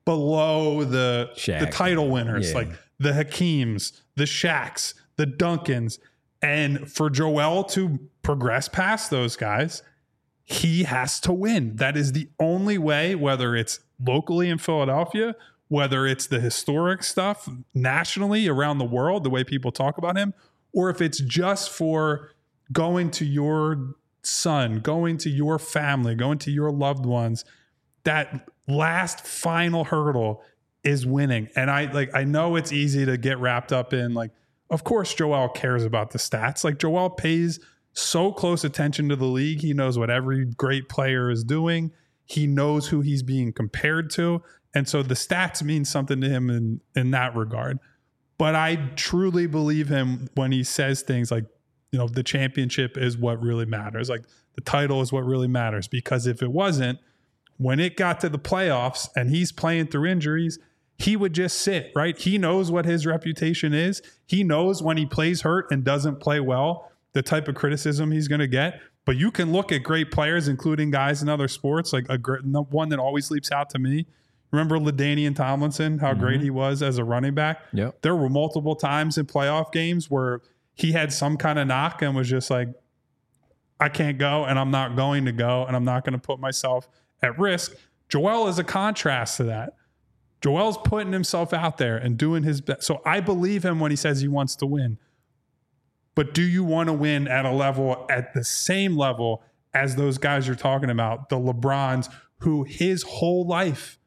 below the, the title winners, yeah. like the Hakeems, the Shaqs, the Duncans. And for Joel to progress past those guys, he has to win. That is the only way, whether it's locally in Philadelphia, whether it's the historic stuff nationally around the world, the way people talk about him, or if it's just for going to your son, going to your family, going to your loved ones, that last final hurdle is winning. And I like, I know it's easy to get wrapped up in like, of course, Joel cares about the stats. Like, Joel pays so close attention to the league. He knows what every great player is doing. He knows who he's being compared to. And so the stats mean something to him in, in that regard. But I truly believe him when he says things like, you know, the championship is what really matters. Like, the title is what really matters. Because if it wasn't, when it got to the playoffs and he's playing through injuries, he would just sit, right? He knows what his reputation is. He knows when he plays hurt and doesn't play well, the type of criticism he's going to get. But you can look at great players, including guys in other sports, like a great, one that always leaps out to me. Remember LaDainian Tomlinson, how mm-hmm. great he was as a running back? Yep. There were multiple times in playoff games where he had some kind of knock and was just like, I can't go and I'm not going to go and I'm not going to put myself at risk. Joel is a contrast to that. Joel's putting himself out there and doing his best. So I believe him when he says he wants to win. But do you want to win at a level, at the same level as those guys you're talking about, the LeBrons, who his whole life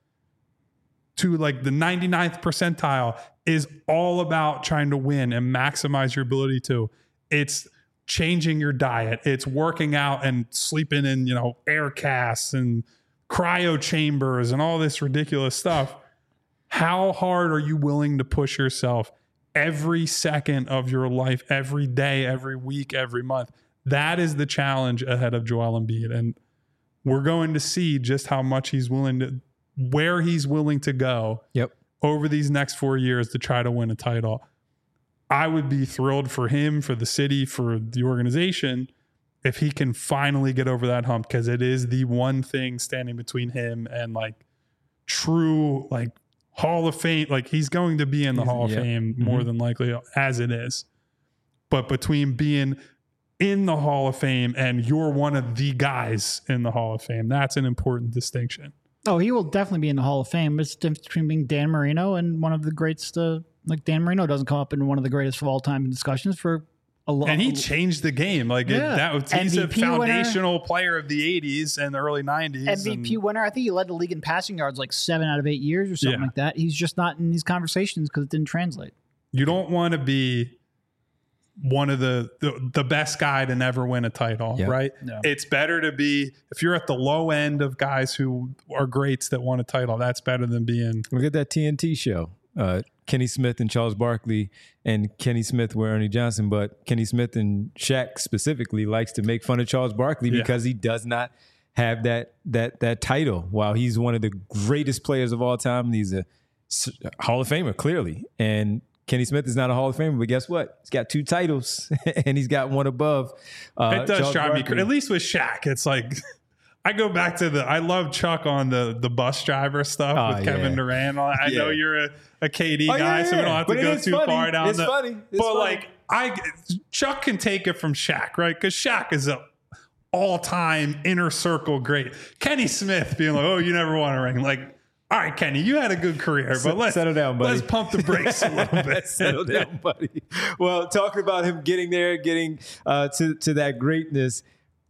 to like the ninety-ninth percentile is all about trying to win and maximize your ability to. It's changing your diet. It's working out and sleeping in, you know, air casts and cryo chambers and all this ridiculous stuff. How hard are you willing to push yourself every second of your life, every day, every week, every month? That is the challenge ahead of Joel Embiid. And we're going to see just how much he's willing to, where he's willing to go yep. over these next four years to try to win a title. I would be thrilled for him, for the city, for the organization, if he can finally get over that hump, because it is the one thing standing between him and like true, like Hall of Fame. Like he's going to be in the he's, Hall of yeah. Fame more mm-hmm. than likely as it is. But between being in the Hall of Fame and you're one of the guys in the Hall of Fame, that's an important distinction. Oh, he will definitely be in the Hall of Fame. It's the difference between being Dan Marino and one of the greats. Uh, like Dan Marino doesn't come up in one of the greatest of all time discussions for a long. And he changed the game. Like yeah. it, that was he's M V P a foundational winner. Player of the eighties and the early nineties. M V P and, winner. I think he led the league in passing yards like seven out of eight years or something yeah. like that. He's just not in these conversations because it didn't translate. You don't want to be one of the, the the best guy to never win a title, yep. right? No. It's better to be, if you're at the low end of guys who are greats that won a title, that's better than being. Look at that T N T show. Uh, Kenny Smith and Charles Barkley, and Kenny Smith were Ernie Johnson, but Kenny Smith and Shaq specifically likes to make fun of Charles Barkley yeah. because he does not have that that that title. While he's one of the greatest players of all time, he's a Hall of Famer, clearly. And Kenny Smith is not a Hall of Famer, but guess what? He's got two titles, and he's got one above. Uh, it does Charles drive Barkley. me, at least with Shaq, it's like I go back to the. I love Chuck on the the bus driver stuff oh, with Kevin yeah. Durant. I yeah. know you're a, a K D oh, guy, yeah, so we don't have to go too funny. far down. It's the, funny. It's but funny. like I, Chuck can take it from Shaq, right? Because Shaq is a all-time inner circle great. Kenny Smith being like, "Oh, you never won a ring," like. All right, Kenny, you had a good career, but let's settle down, buddy. Let's pump the brakes a little bit. Settle down, buddy. Well, talking about him getting there, getting uh, to to that greatness,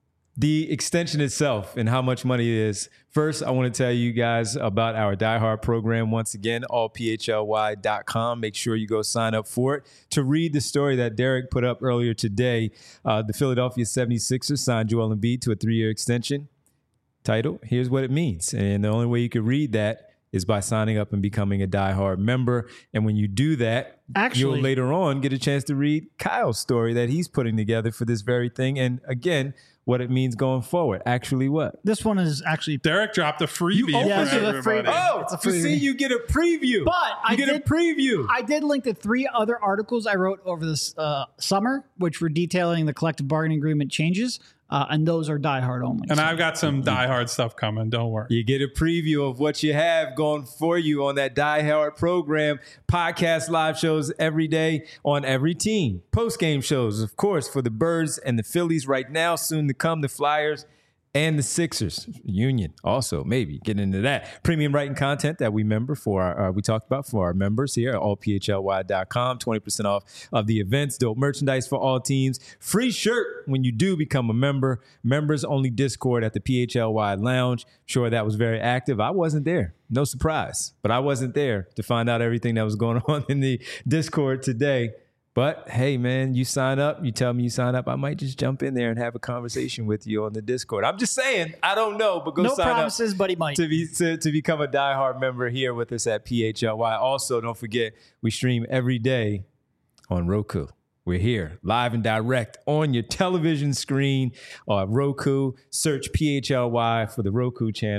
the extension itself and how much money it is. First, I want to tell you guys about our Die Hard program. Once again, all P H L Y dot com. Make sure you go sign up for it. To read the story that Derek put up earlier today, uh, the Philadelphia seventy-sixers signed Joel Embiid to a three-year extension. Title, here's what it means. And the only way you can read that is by signing up and becoming a Die Hard member. And when you do that, Actually, you'll later on get a chance to read Kyle's story that he's putting together for this very thing. And again, what it means going forward. Actually, what? This one is actually... Derek dropped a freebie. You, yeah, for this is a freebie. Oh, it's a freebie. See, you get a preview. But you I get did, a preview. I did link to three other articles I wrote over this uh, summer, which were detailing the collective bargaining agreement changes. Uh, and those are Die Hard only. And so. I've got some Die Hard stuff coming. Don't worry. You get a preview of what you have going for you on that Die Hard program. Podcast live shows every day on every team. Post-game shows, of course, for the Birds and the Phillies right now. Soon to come, the Flyers and the Sixers. Union also, maybe getting into that. Premium writing content that we member for our, uh, we talked about for our members here at all P H L Y dot com. twenty percent off of the events. Dope merchandise for all teams. Free shirt when you do become a member. Members only Discord at the P H L Y Lounge. Sure, that was very active. I wasn't there. No surprise. But I wasn't there to find out everything that was going on in the Discord today. But hey, man, you sign up, you tell me you sign up, I might just jump in there and have a conversation with you on the Discord. I'm just saying, I don't know, but go no sign promises, up but he might. To, be, to, to become a Die Hard member here with us at P H L Y. Also, don't forget, we stream every day on Roku. We're here live and direct on your television screen on Roku. Search P H L Y for the Roku channel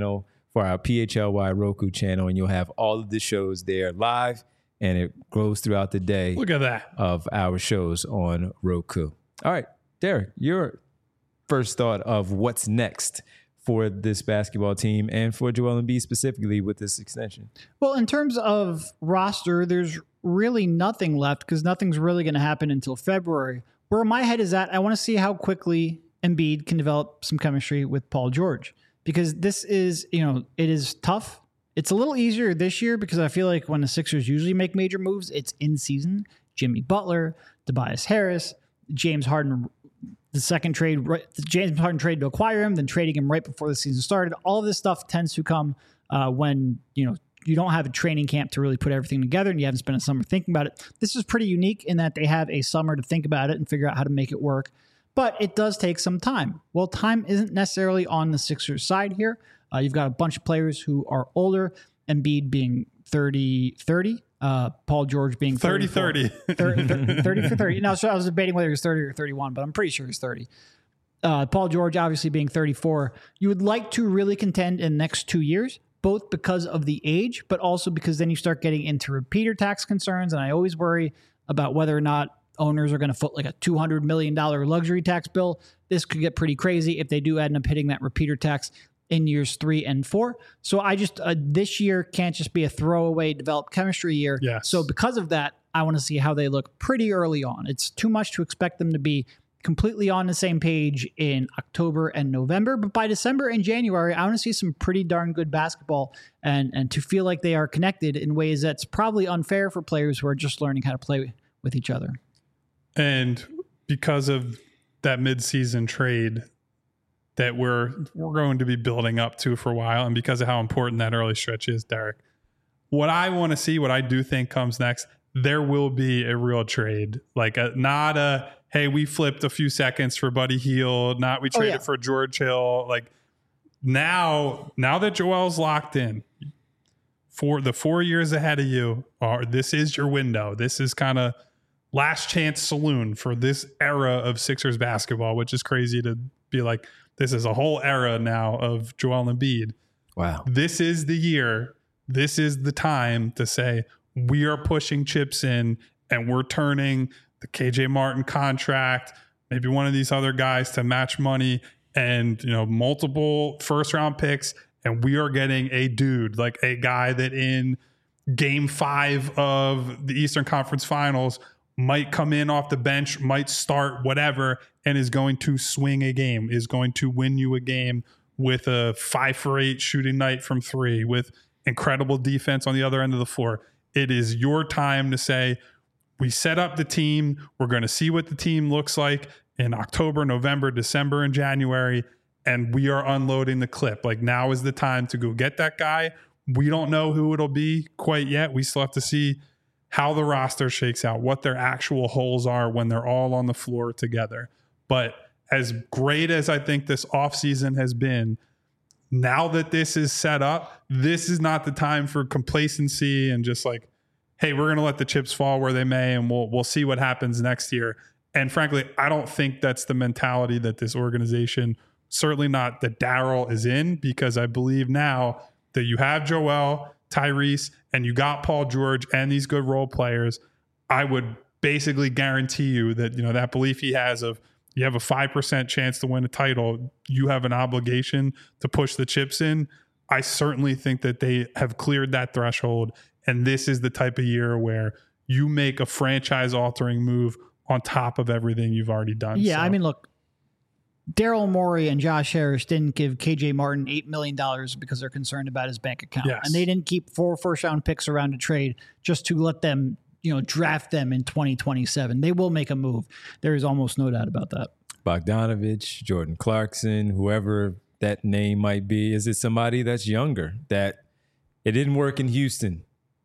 for our P H L Y Roku channel, and you'll have all of the shows there live, and it grows throughout the day. Look at that. Of our shows on Roku. All right, Derek, your first thought of what's next for this basketball team and for Joel Embiid specifically with this extension? Well, in terms of roster, there's really nothing left because nothing's really going to happen until February. Where my head is at, I want to see how quickly Embiid can develop some chemistry with Paul George, because this is, you know, it is tough. It's a little easier this year because I feel like when the Sixers usually make major moves, it's in season. Jimmy Butler, Tobias Harris, James Harden, the second trade, the James Harden trade to acquire him, then trading him right before the season started. All of this stuff tends to come uh, when, you know, you don't have a training camp to really put everything together and you haven't spent a summer thinking about it. This is pretty unique in that they have a summer to think about it and figure out how to make it work. But it does take some time. Well, time isn't necessarily on the Sixers side here. Uh, you've got a bunch of players who are older, Embiid being thirty thirty, uh, Paul George being thirty thirty. thirty, thirty, thirty for thirty. No, so I was debating whether he was thirty or thirty-one, but I'm pretty sure he's thirty. Uh, Paul George obviously being thirty-four. You would like to really contend in the next two years, both because of the age, but also because then you start getting into repeater tax concerns. And I always worry about whether or not owners are going to foot like a two hundred million dollars luxury tax bill. This could get pretty crazy if they do end up hitting that repeater tax in years three and four. So I just, uh, this year can't just be a throwaway developed chemistry year. Yes. So because of that, I want to see how they look pretty early on. It's too much to expect them to be completely on the same page in October and November, but by December and January, I want to see some pretty darn good basketball and, and to feel like they are connected in ways that's probably unfair for players who are just learning how to play with each other. And because of that midseason trade that we're we're going to be building up to for a while, and because of how important that early stretch is, Derek, what I want to see, what I do think comes next, there will be a real trade, like a, not a, hey, we flipped a few seconds for Buddy Hield, not we traded oh, yeah. for George Hill. Like now, now that Joel's locked in for the four years ahead of you, are this is your window. This is kind of last chance saloon for this era of Sixers basketball, which is crazy to be like, this is a whole era now of Joel Embiid. Wow. This is the year. This is the time to say we are pushing chips in and we're turning the K J Martin contract, maybe one of these other guys to match money and, you know, multiple first round picks. And we are getting a dude, like a guy that in game five of the Eastern Conference Finals might come in off the bench, might start whatever, and is going to swing a game, is going to win you a game with a five for eight shooting night from three, with incredible defense on the other end of the floor. It is your time to say, we set up the team. We're going to see what the team looks like in October, November, December, and January, and we are unloading the clip. Like now is the time to go get that guy. We don't know who it'll be quite yet. We still have to see how the roster shakes out, what their actual holes are when they're all on the floor together. But as great as I think this offseason has been, now that this is set up, this is not the time for complacency and just like, hey, we're going to let the chips fall where they may, and we'll we'll see what happens next year. And frankly, I don't think that's the mentality that this organization, certainly not that Daryl is in, because I believe now that you have Joel, Tyrese, and you got Paul George and these good role players, I would basically guarantee you that, you know, that belief he has of you have a five percent chance to win a title, you have an obligation to push the chips in. I certainly think that they have cleared that threshold. And this is the type of year where you make a franchise altering move on top of everything you've already done. Yeah. So. I mean, look, Daryl Morey and Josh Harris didn't give K J Martin eight million dollars because they're concerned about his bank account. Yes. And they didn't keep four first round picks around to trade just to let them, you know, draft them in twenty twenty-seven. They will make a move. There is almost no doubt about that. Bogdanovich, Jordan Clarkson, whoever that name might be. Is it somebody that's younger that it didn't work in Houston?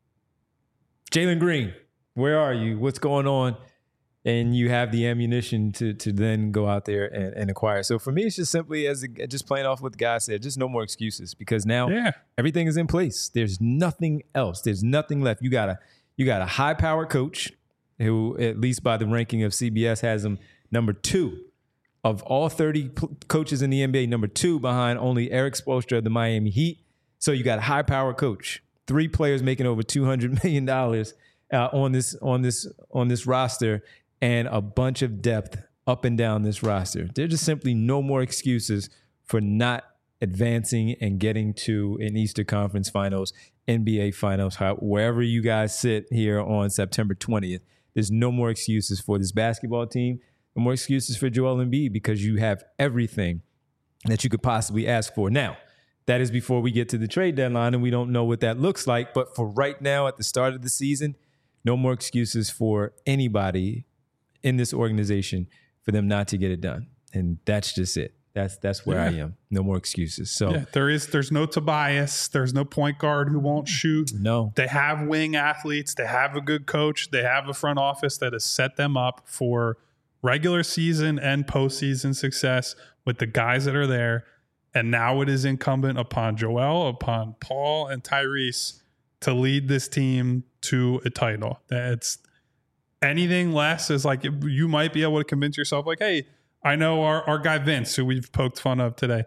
Jalen Green, where are you? What's going on? And you have the ammunition to to then go out there and, and acquire. So for me, it's just simply as a, just playing off what the guy said, just no more excuses, because now yeah. everything is in place. There's nothing else. There's nothing left. You got a you got a high powered coach who, at least by the ranking of C B S, has him number two of all thirty p- coaches in the N B A, number two behind only Eric Spoelstra of the Miami Heat. So you got a high power coach, three players making over two hundred million dollars uh, on this on this on this roster, and a bunch of depth up and down this roster. There's just simply no more excuses for not advancing and getting to an Eastern Conference Finals, N B A Finals, how, wherever you guys sit here on September twentieth. There's no more excuses for this basketball team, no more excuses for Joel Embiid, because you have everything that you could possibly ask for. Now, that is before we get to the trade deadline, and we don't know what that looks like. But for right now, at the start of the season, no more excuses for anybody in this organization for them not to get it done. And that's just it. That's that's where yeah. I am. No more excuses. So yeah, there is there's no Tobias. There's no point guard who won't shoot. No. They have wing athletes. They have a good coach. They have a front office that has set them up for regular season and postseason success with the guys that are there. And now it is incumbent upon Joel, upon Paul, and Tyrese to lead this team to a title. That's anything less is like you might be able to convince yourself, like, hey, I know our, our guy Vince, who we've poked fun of today.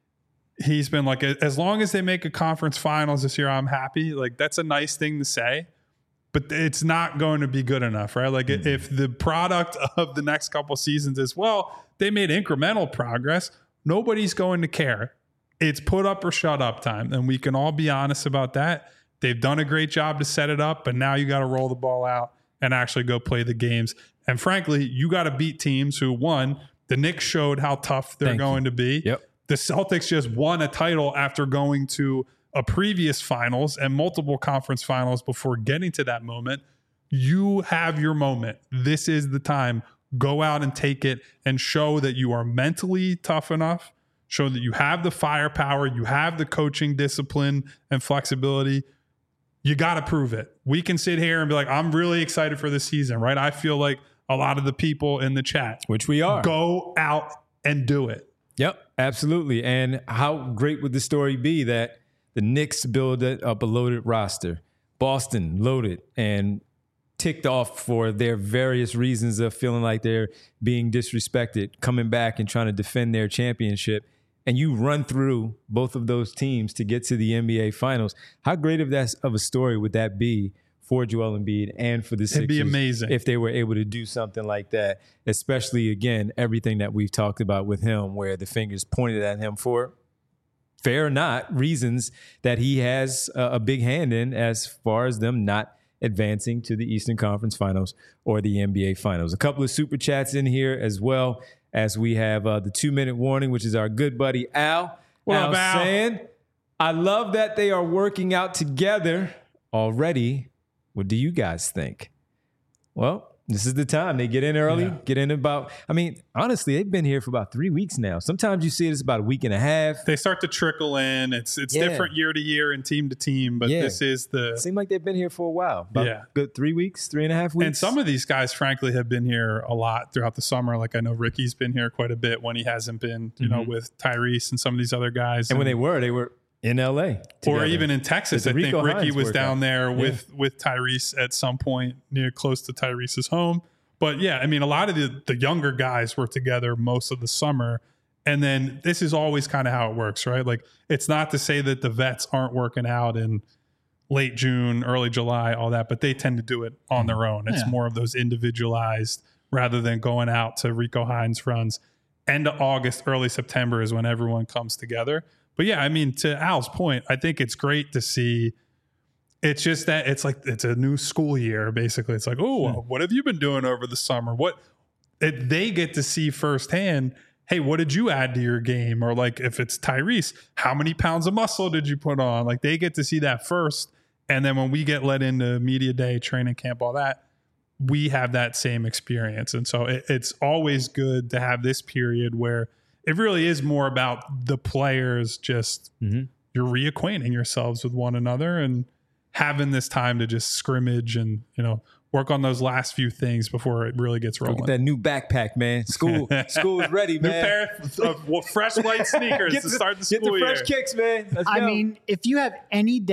He's been like, as long as they make a conference finals this year, I'm happy. Like, that's a nice thing to say, but it's not going to be good enough, right? Like, mm-hmm. if the product of the next couple seasons is, well, they made incremental progress, nobody's going to care. It's put up or shut up time. And we can all be honest about that. They've done a great job to set it up, but now you got to roll the ball out and actually go play the games. And frankly, you got to beat teams who, one, the Knicks showed how tough they're Thank going you. to be. Yep. The Celtics just won a title after going to a previous finals and multiple conference finals before getting to that moment. You have your moment. This is the time. Go out and take it and show that you are mentally tough enough. Show that you have the firepower. You have the coaching discipline and flexibility. You got to prove it. We can sit here and be like, I'm really excited for this season, right? I feel like a lot of the people in the chat, which we are, go out and do it. Yep, absolutely. And how great would the story be that the Knicks build up a loaded roster, Boston loaded and ticked off for their various reasons of feeling like they're being disrespected, coming back and trying to defend their championship, and you run through both of those teams to get to the N B A Finals. How great of that of a story would that be for Joel Embiid and for the Sixers? It'd be amazing if they were able to do something like that, especially, again, everything that we've talked about with him, where the fingers pointed at him for, fair or not, reasons that he has a, a big hand in as far as them not advancing to the Eastern Conference Finals or the N B A Finals. A couple of super chats in here as well, as we have uh, the two-minute warning, which is our good buddy Al. What Al up, Al? saying, I love that they are working out together already. What do you guys think? Well, this is the time. They get in early, yeah. get in about, I mean, honestly, they've been here for about three weeks now. Sometimes you see it as about a week and a half. They start to trickle in. It's it's Yeah. different year to year and team to team, but Yeah. this is the... It seemed like they've been here for a while. About Yeah. good three weeks, three and a half weeks. And some of these guys, frankly, have been here a lot throughout the summer. Like I know Ricky's been here quite a bit when he hasn't been, you know, Mhm. with Tyrese and some of these other guys. And when they were, they were in L A together. Or even in Texas, Did I the think Rico Ricky Hines was work down out? there Yeah. with with Tyrese at some point near close to Tyrese's home. But yeah, I mean, a lot of the, the younger guys were together most of the summer. And then this is always kind of how it works, right? Like it's not to say that the vets aren't working out in late June, early July, all that, but they tend to do it on their own. It's Yeah. more of those individualized rather than going out to Rico Hines runs. End of August, early September is when everyone comes together. But yeah, I mean, to Al's point, I think it's great to see. It's just that it's like it's a new school year, basically. It's like, oh, Hmm. what have you been doing over the summer? What it, they get to see firsthand. Hey, what did you add to your game? Or like if it's Tyrese, how many pounds of muscle did you put on? Like they get to see that first. And then when we get let into media day, training camp, all that, we have that same experience. And so it, it's always good to have this period where it really is more about the players just Mhm. you're reacquainting yourselves with one another and having this time to just scrimmage and, you know, work on those last few things before it really gets rolling. Look at that new backpack, man. School, school is ready, New man. pair of of fresh white sneakers Get to the- start the Get school the fresh year. kicks, man. Let's I go. mean, if you have any doubt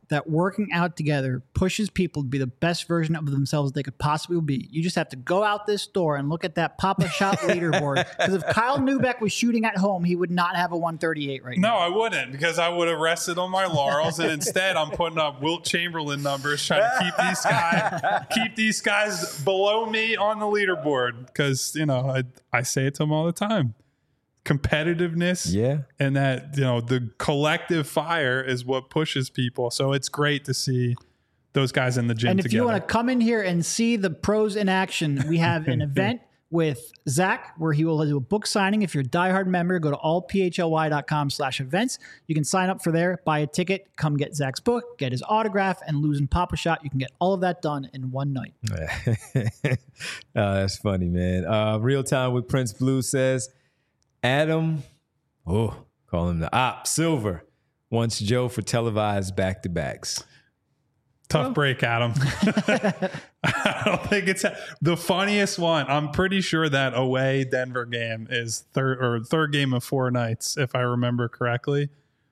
that working out together pushes people to be the best version of themselves they could possibly be. You just have to go out this door and look at that Papa Shot leaderboard. Because if Kyle Neubeck was shooting at home, he would not have a one thirty-eight right no, now. No, I wouldn't, because I would have rested on my laurels, and instead I'm putting up Wilt Chamberlain numbers, trying to keep these guys keep these guys below me on the leaderboard. Because you know, I I say it to them all the time. Competitiveness, yeah, and that, you know, the collective fire is what pushes people. So it's great to see those guys in the gym and if together. you want to come in here and see the pros in action, we have an event with Zach where he will do a book signing. If you're a diehard member, go to all p h l y dot com slash events. You can sign up for there, buy a ticket, come get Zach's book, get his autograph, and losing Papa Shot. You can get all of that done in one night. oh, that's funny, man. Uh, Real Time with Prince Blue says, Adam, oh, call him the Op Silver, wants Joe for televised back-to-backs. Tough well. break, Adam. I don't think it's the funniest one. I'm pretty sure that away Denver game is third or third game of four nights, if I remember correctly.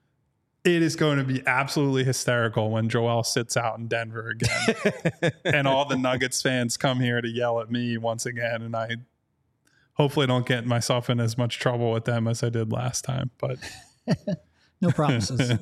It is going to be absolutely hysterical when Joel sits out in Denver again, and all the Nuggets fans come here to yell at me once again, and I hopefully don't get myself in as much trouble with them as I did last time. But no promises.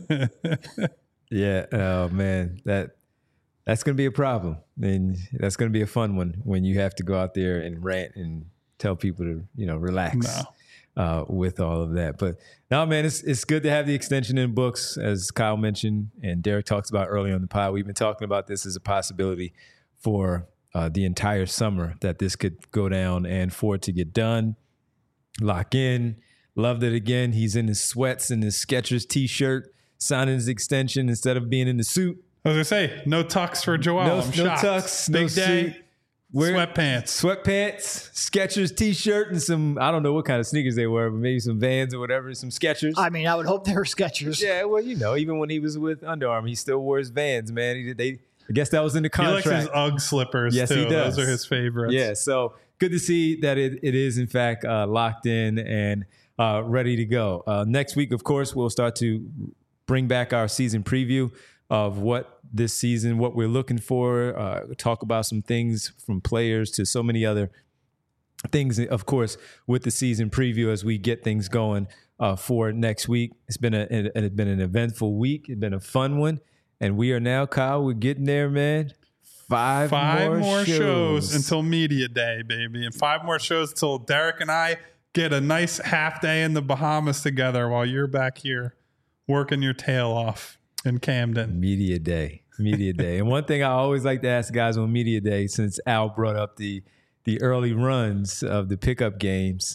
Yeah, oh man, that that's going to be a problem, and that's going to be a fun one when you have to go out there and rant and tell people to, you know, relax no. uh, with all of that. But no, man, it's it's good to have the extension in books, as Kyle mentioned and Derek talks about earlier on the pod. We've been talking about this as a possibility for uh, the entire summer, that this could go down, and for it to get done, lock in. Loved it again. He's in his sweats and his Skechers t-shirt, signing his extension instead of being in the suit. I was gonna say, no tux for Joel. No, I'm no shocked. tux, Big no day. suit. Wear Sweatpants. Sweatpants, Skechers t-shirt, and some, I don't know what kind of sneakers they were, but maybe some Vans or whatever, some Skechers. I mean, I would hope they were Skechers. Yeah, well, you know, even when he was with Under Armour, he still wore his Vans, man. He, they, I guess that was in the contract. He likes his Ugg slippers, yes, too. He does. Those are his favorites. Yeah, so good to see that it, it is, in fact, uh, locked in and uh, ready to go. Uh, next week, of course, we'll start to bring back our season preview of what this season, what we're looking for, uh, talk about some things from players to so many other things, of course, with the season preview as we get things going uh, for next week. It's been a, it, it's been an eventful week. It's been a fun one. And we are now, Kyle, we're getting there, man. Five, Five more, more shows. shows until media day, baby. And five more shows until Derek and I get a nice half day in the Bahamas together while you're back here working your tail off in Camden. Media day. Media day. And one thing I always like to ask guys on media day, since Al brought up the the early runs of the pickup games,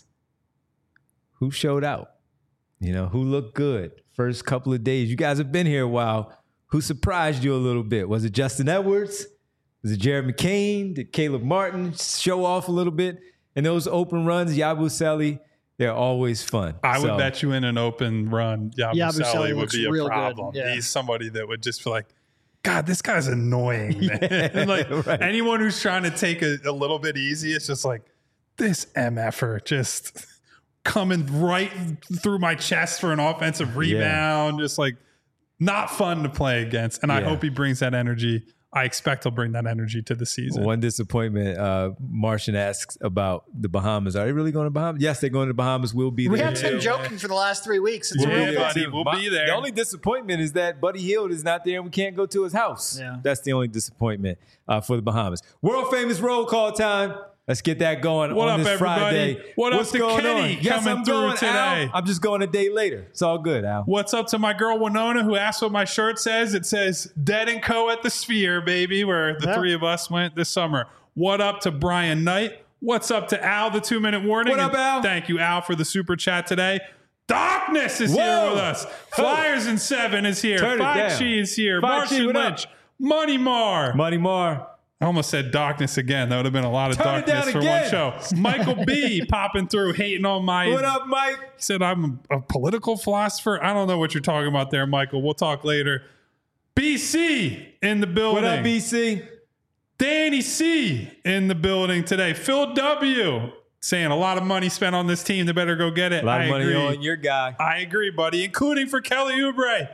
who showed out? You know, who looked good first couple of days? You guys have been here a while. Who surprised you a little bit? Was it Justin Edwards? Was it Jared McCain? Did Caleb Martin show off a little bit? And those open runs, Yabusele, they're always fun. I so, would bet you in an open run, Yabusele, Yabusele would looks be a real problem. good. Yeah. He's somebody that would just feel like, God, this guy's annoying, man. Yeah, like right. anyone who's trying to take a, a little bit easy, it's just like, this M F-er just coming right through my chest for an offensive rebound. Yeah. Just like not fun to play against. And yeah. I hope he brings that energy. I expect he'll bring that energy to the season. One disappointment, uh, Martian asks about the Bahamas. Are they really going to Bahamas? Yes, they're going to the Bahamas. We'll be there. We have been yeah. joking for the last three weeks. It's we'll real be there, buddy. We'll My, be there. The only disappointment is that Buddy Hield is not there and we can't go to his house. Yeah. That's the only disappointment uh, for the Bahamas. World famous roll call time. Let's get that going what on up, this everybody? Friday. What What's up to going Kenny on? Yes, coming I'm through going, today? Al. I'm just going a day later. It's all good, Al. What's up to my girl Winona, who asked what my shirt says? It says Dead and Co. at the Sphere, baby, where the yeah. three of us went this summer. What up to Brian Knight? What's up to Al, the two-minute warning? What up, and Al? Thank you, Al, for the super chat today. Darkness is Whoa. here with us. Flyers in seven is here. Turn it Five down. Chi is here. Five Chi, Martian what up? Lynch. Money Mar. Money Mar. I almost said darkness again. That would have been a lot of Turn it darkness down for again. one show. Michael B. popping through, hating on my... What up, Mike? He said, I'm a, a political philosopher. I don't know what you're talking about there, Michael. We'll talk later. B C in the building. What up, B C? Danny C in the building today. Phil W. saying a lot of money spent on this team. They better go get it. A lot I of money agree. on your guy. I agree, buddy, including for Kelly Oubre.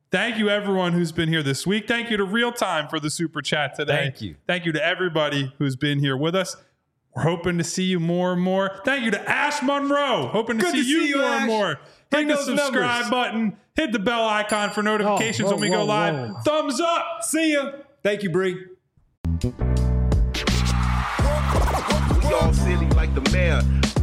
Thank you, everyone who's been here this week. Thank you to Real Time for the super chat today. Thank you. Thank you to everybody who's been here with us. We're hoping to see you more and more. Thank you to Ash Monroe. Hoping to Good see to you see you, more Ash. and more. Bring Hit the those subscribe numbers. button. Hit the bell icon for notifications whoa, when we go whoa, live. whoa. Thumbs up. See ya. Thank you, Bree. We all silly like the mayor.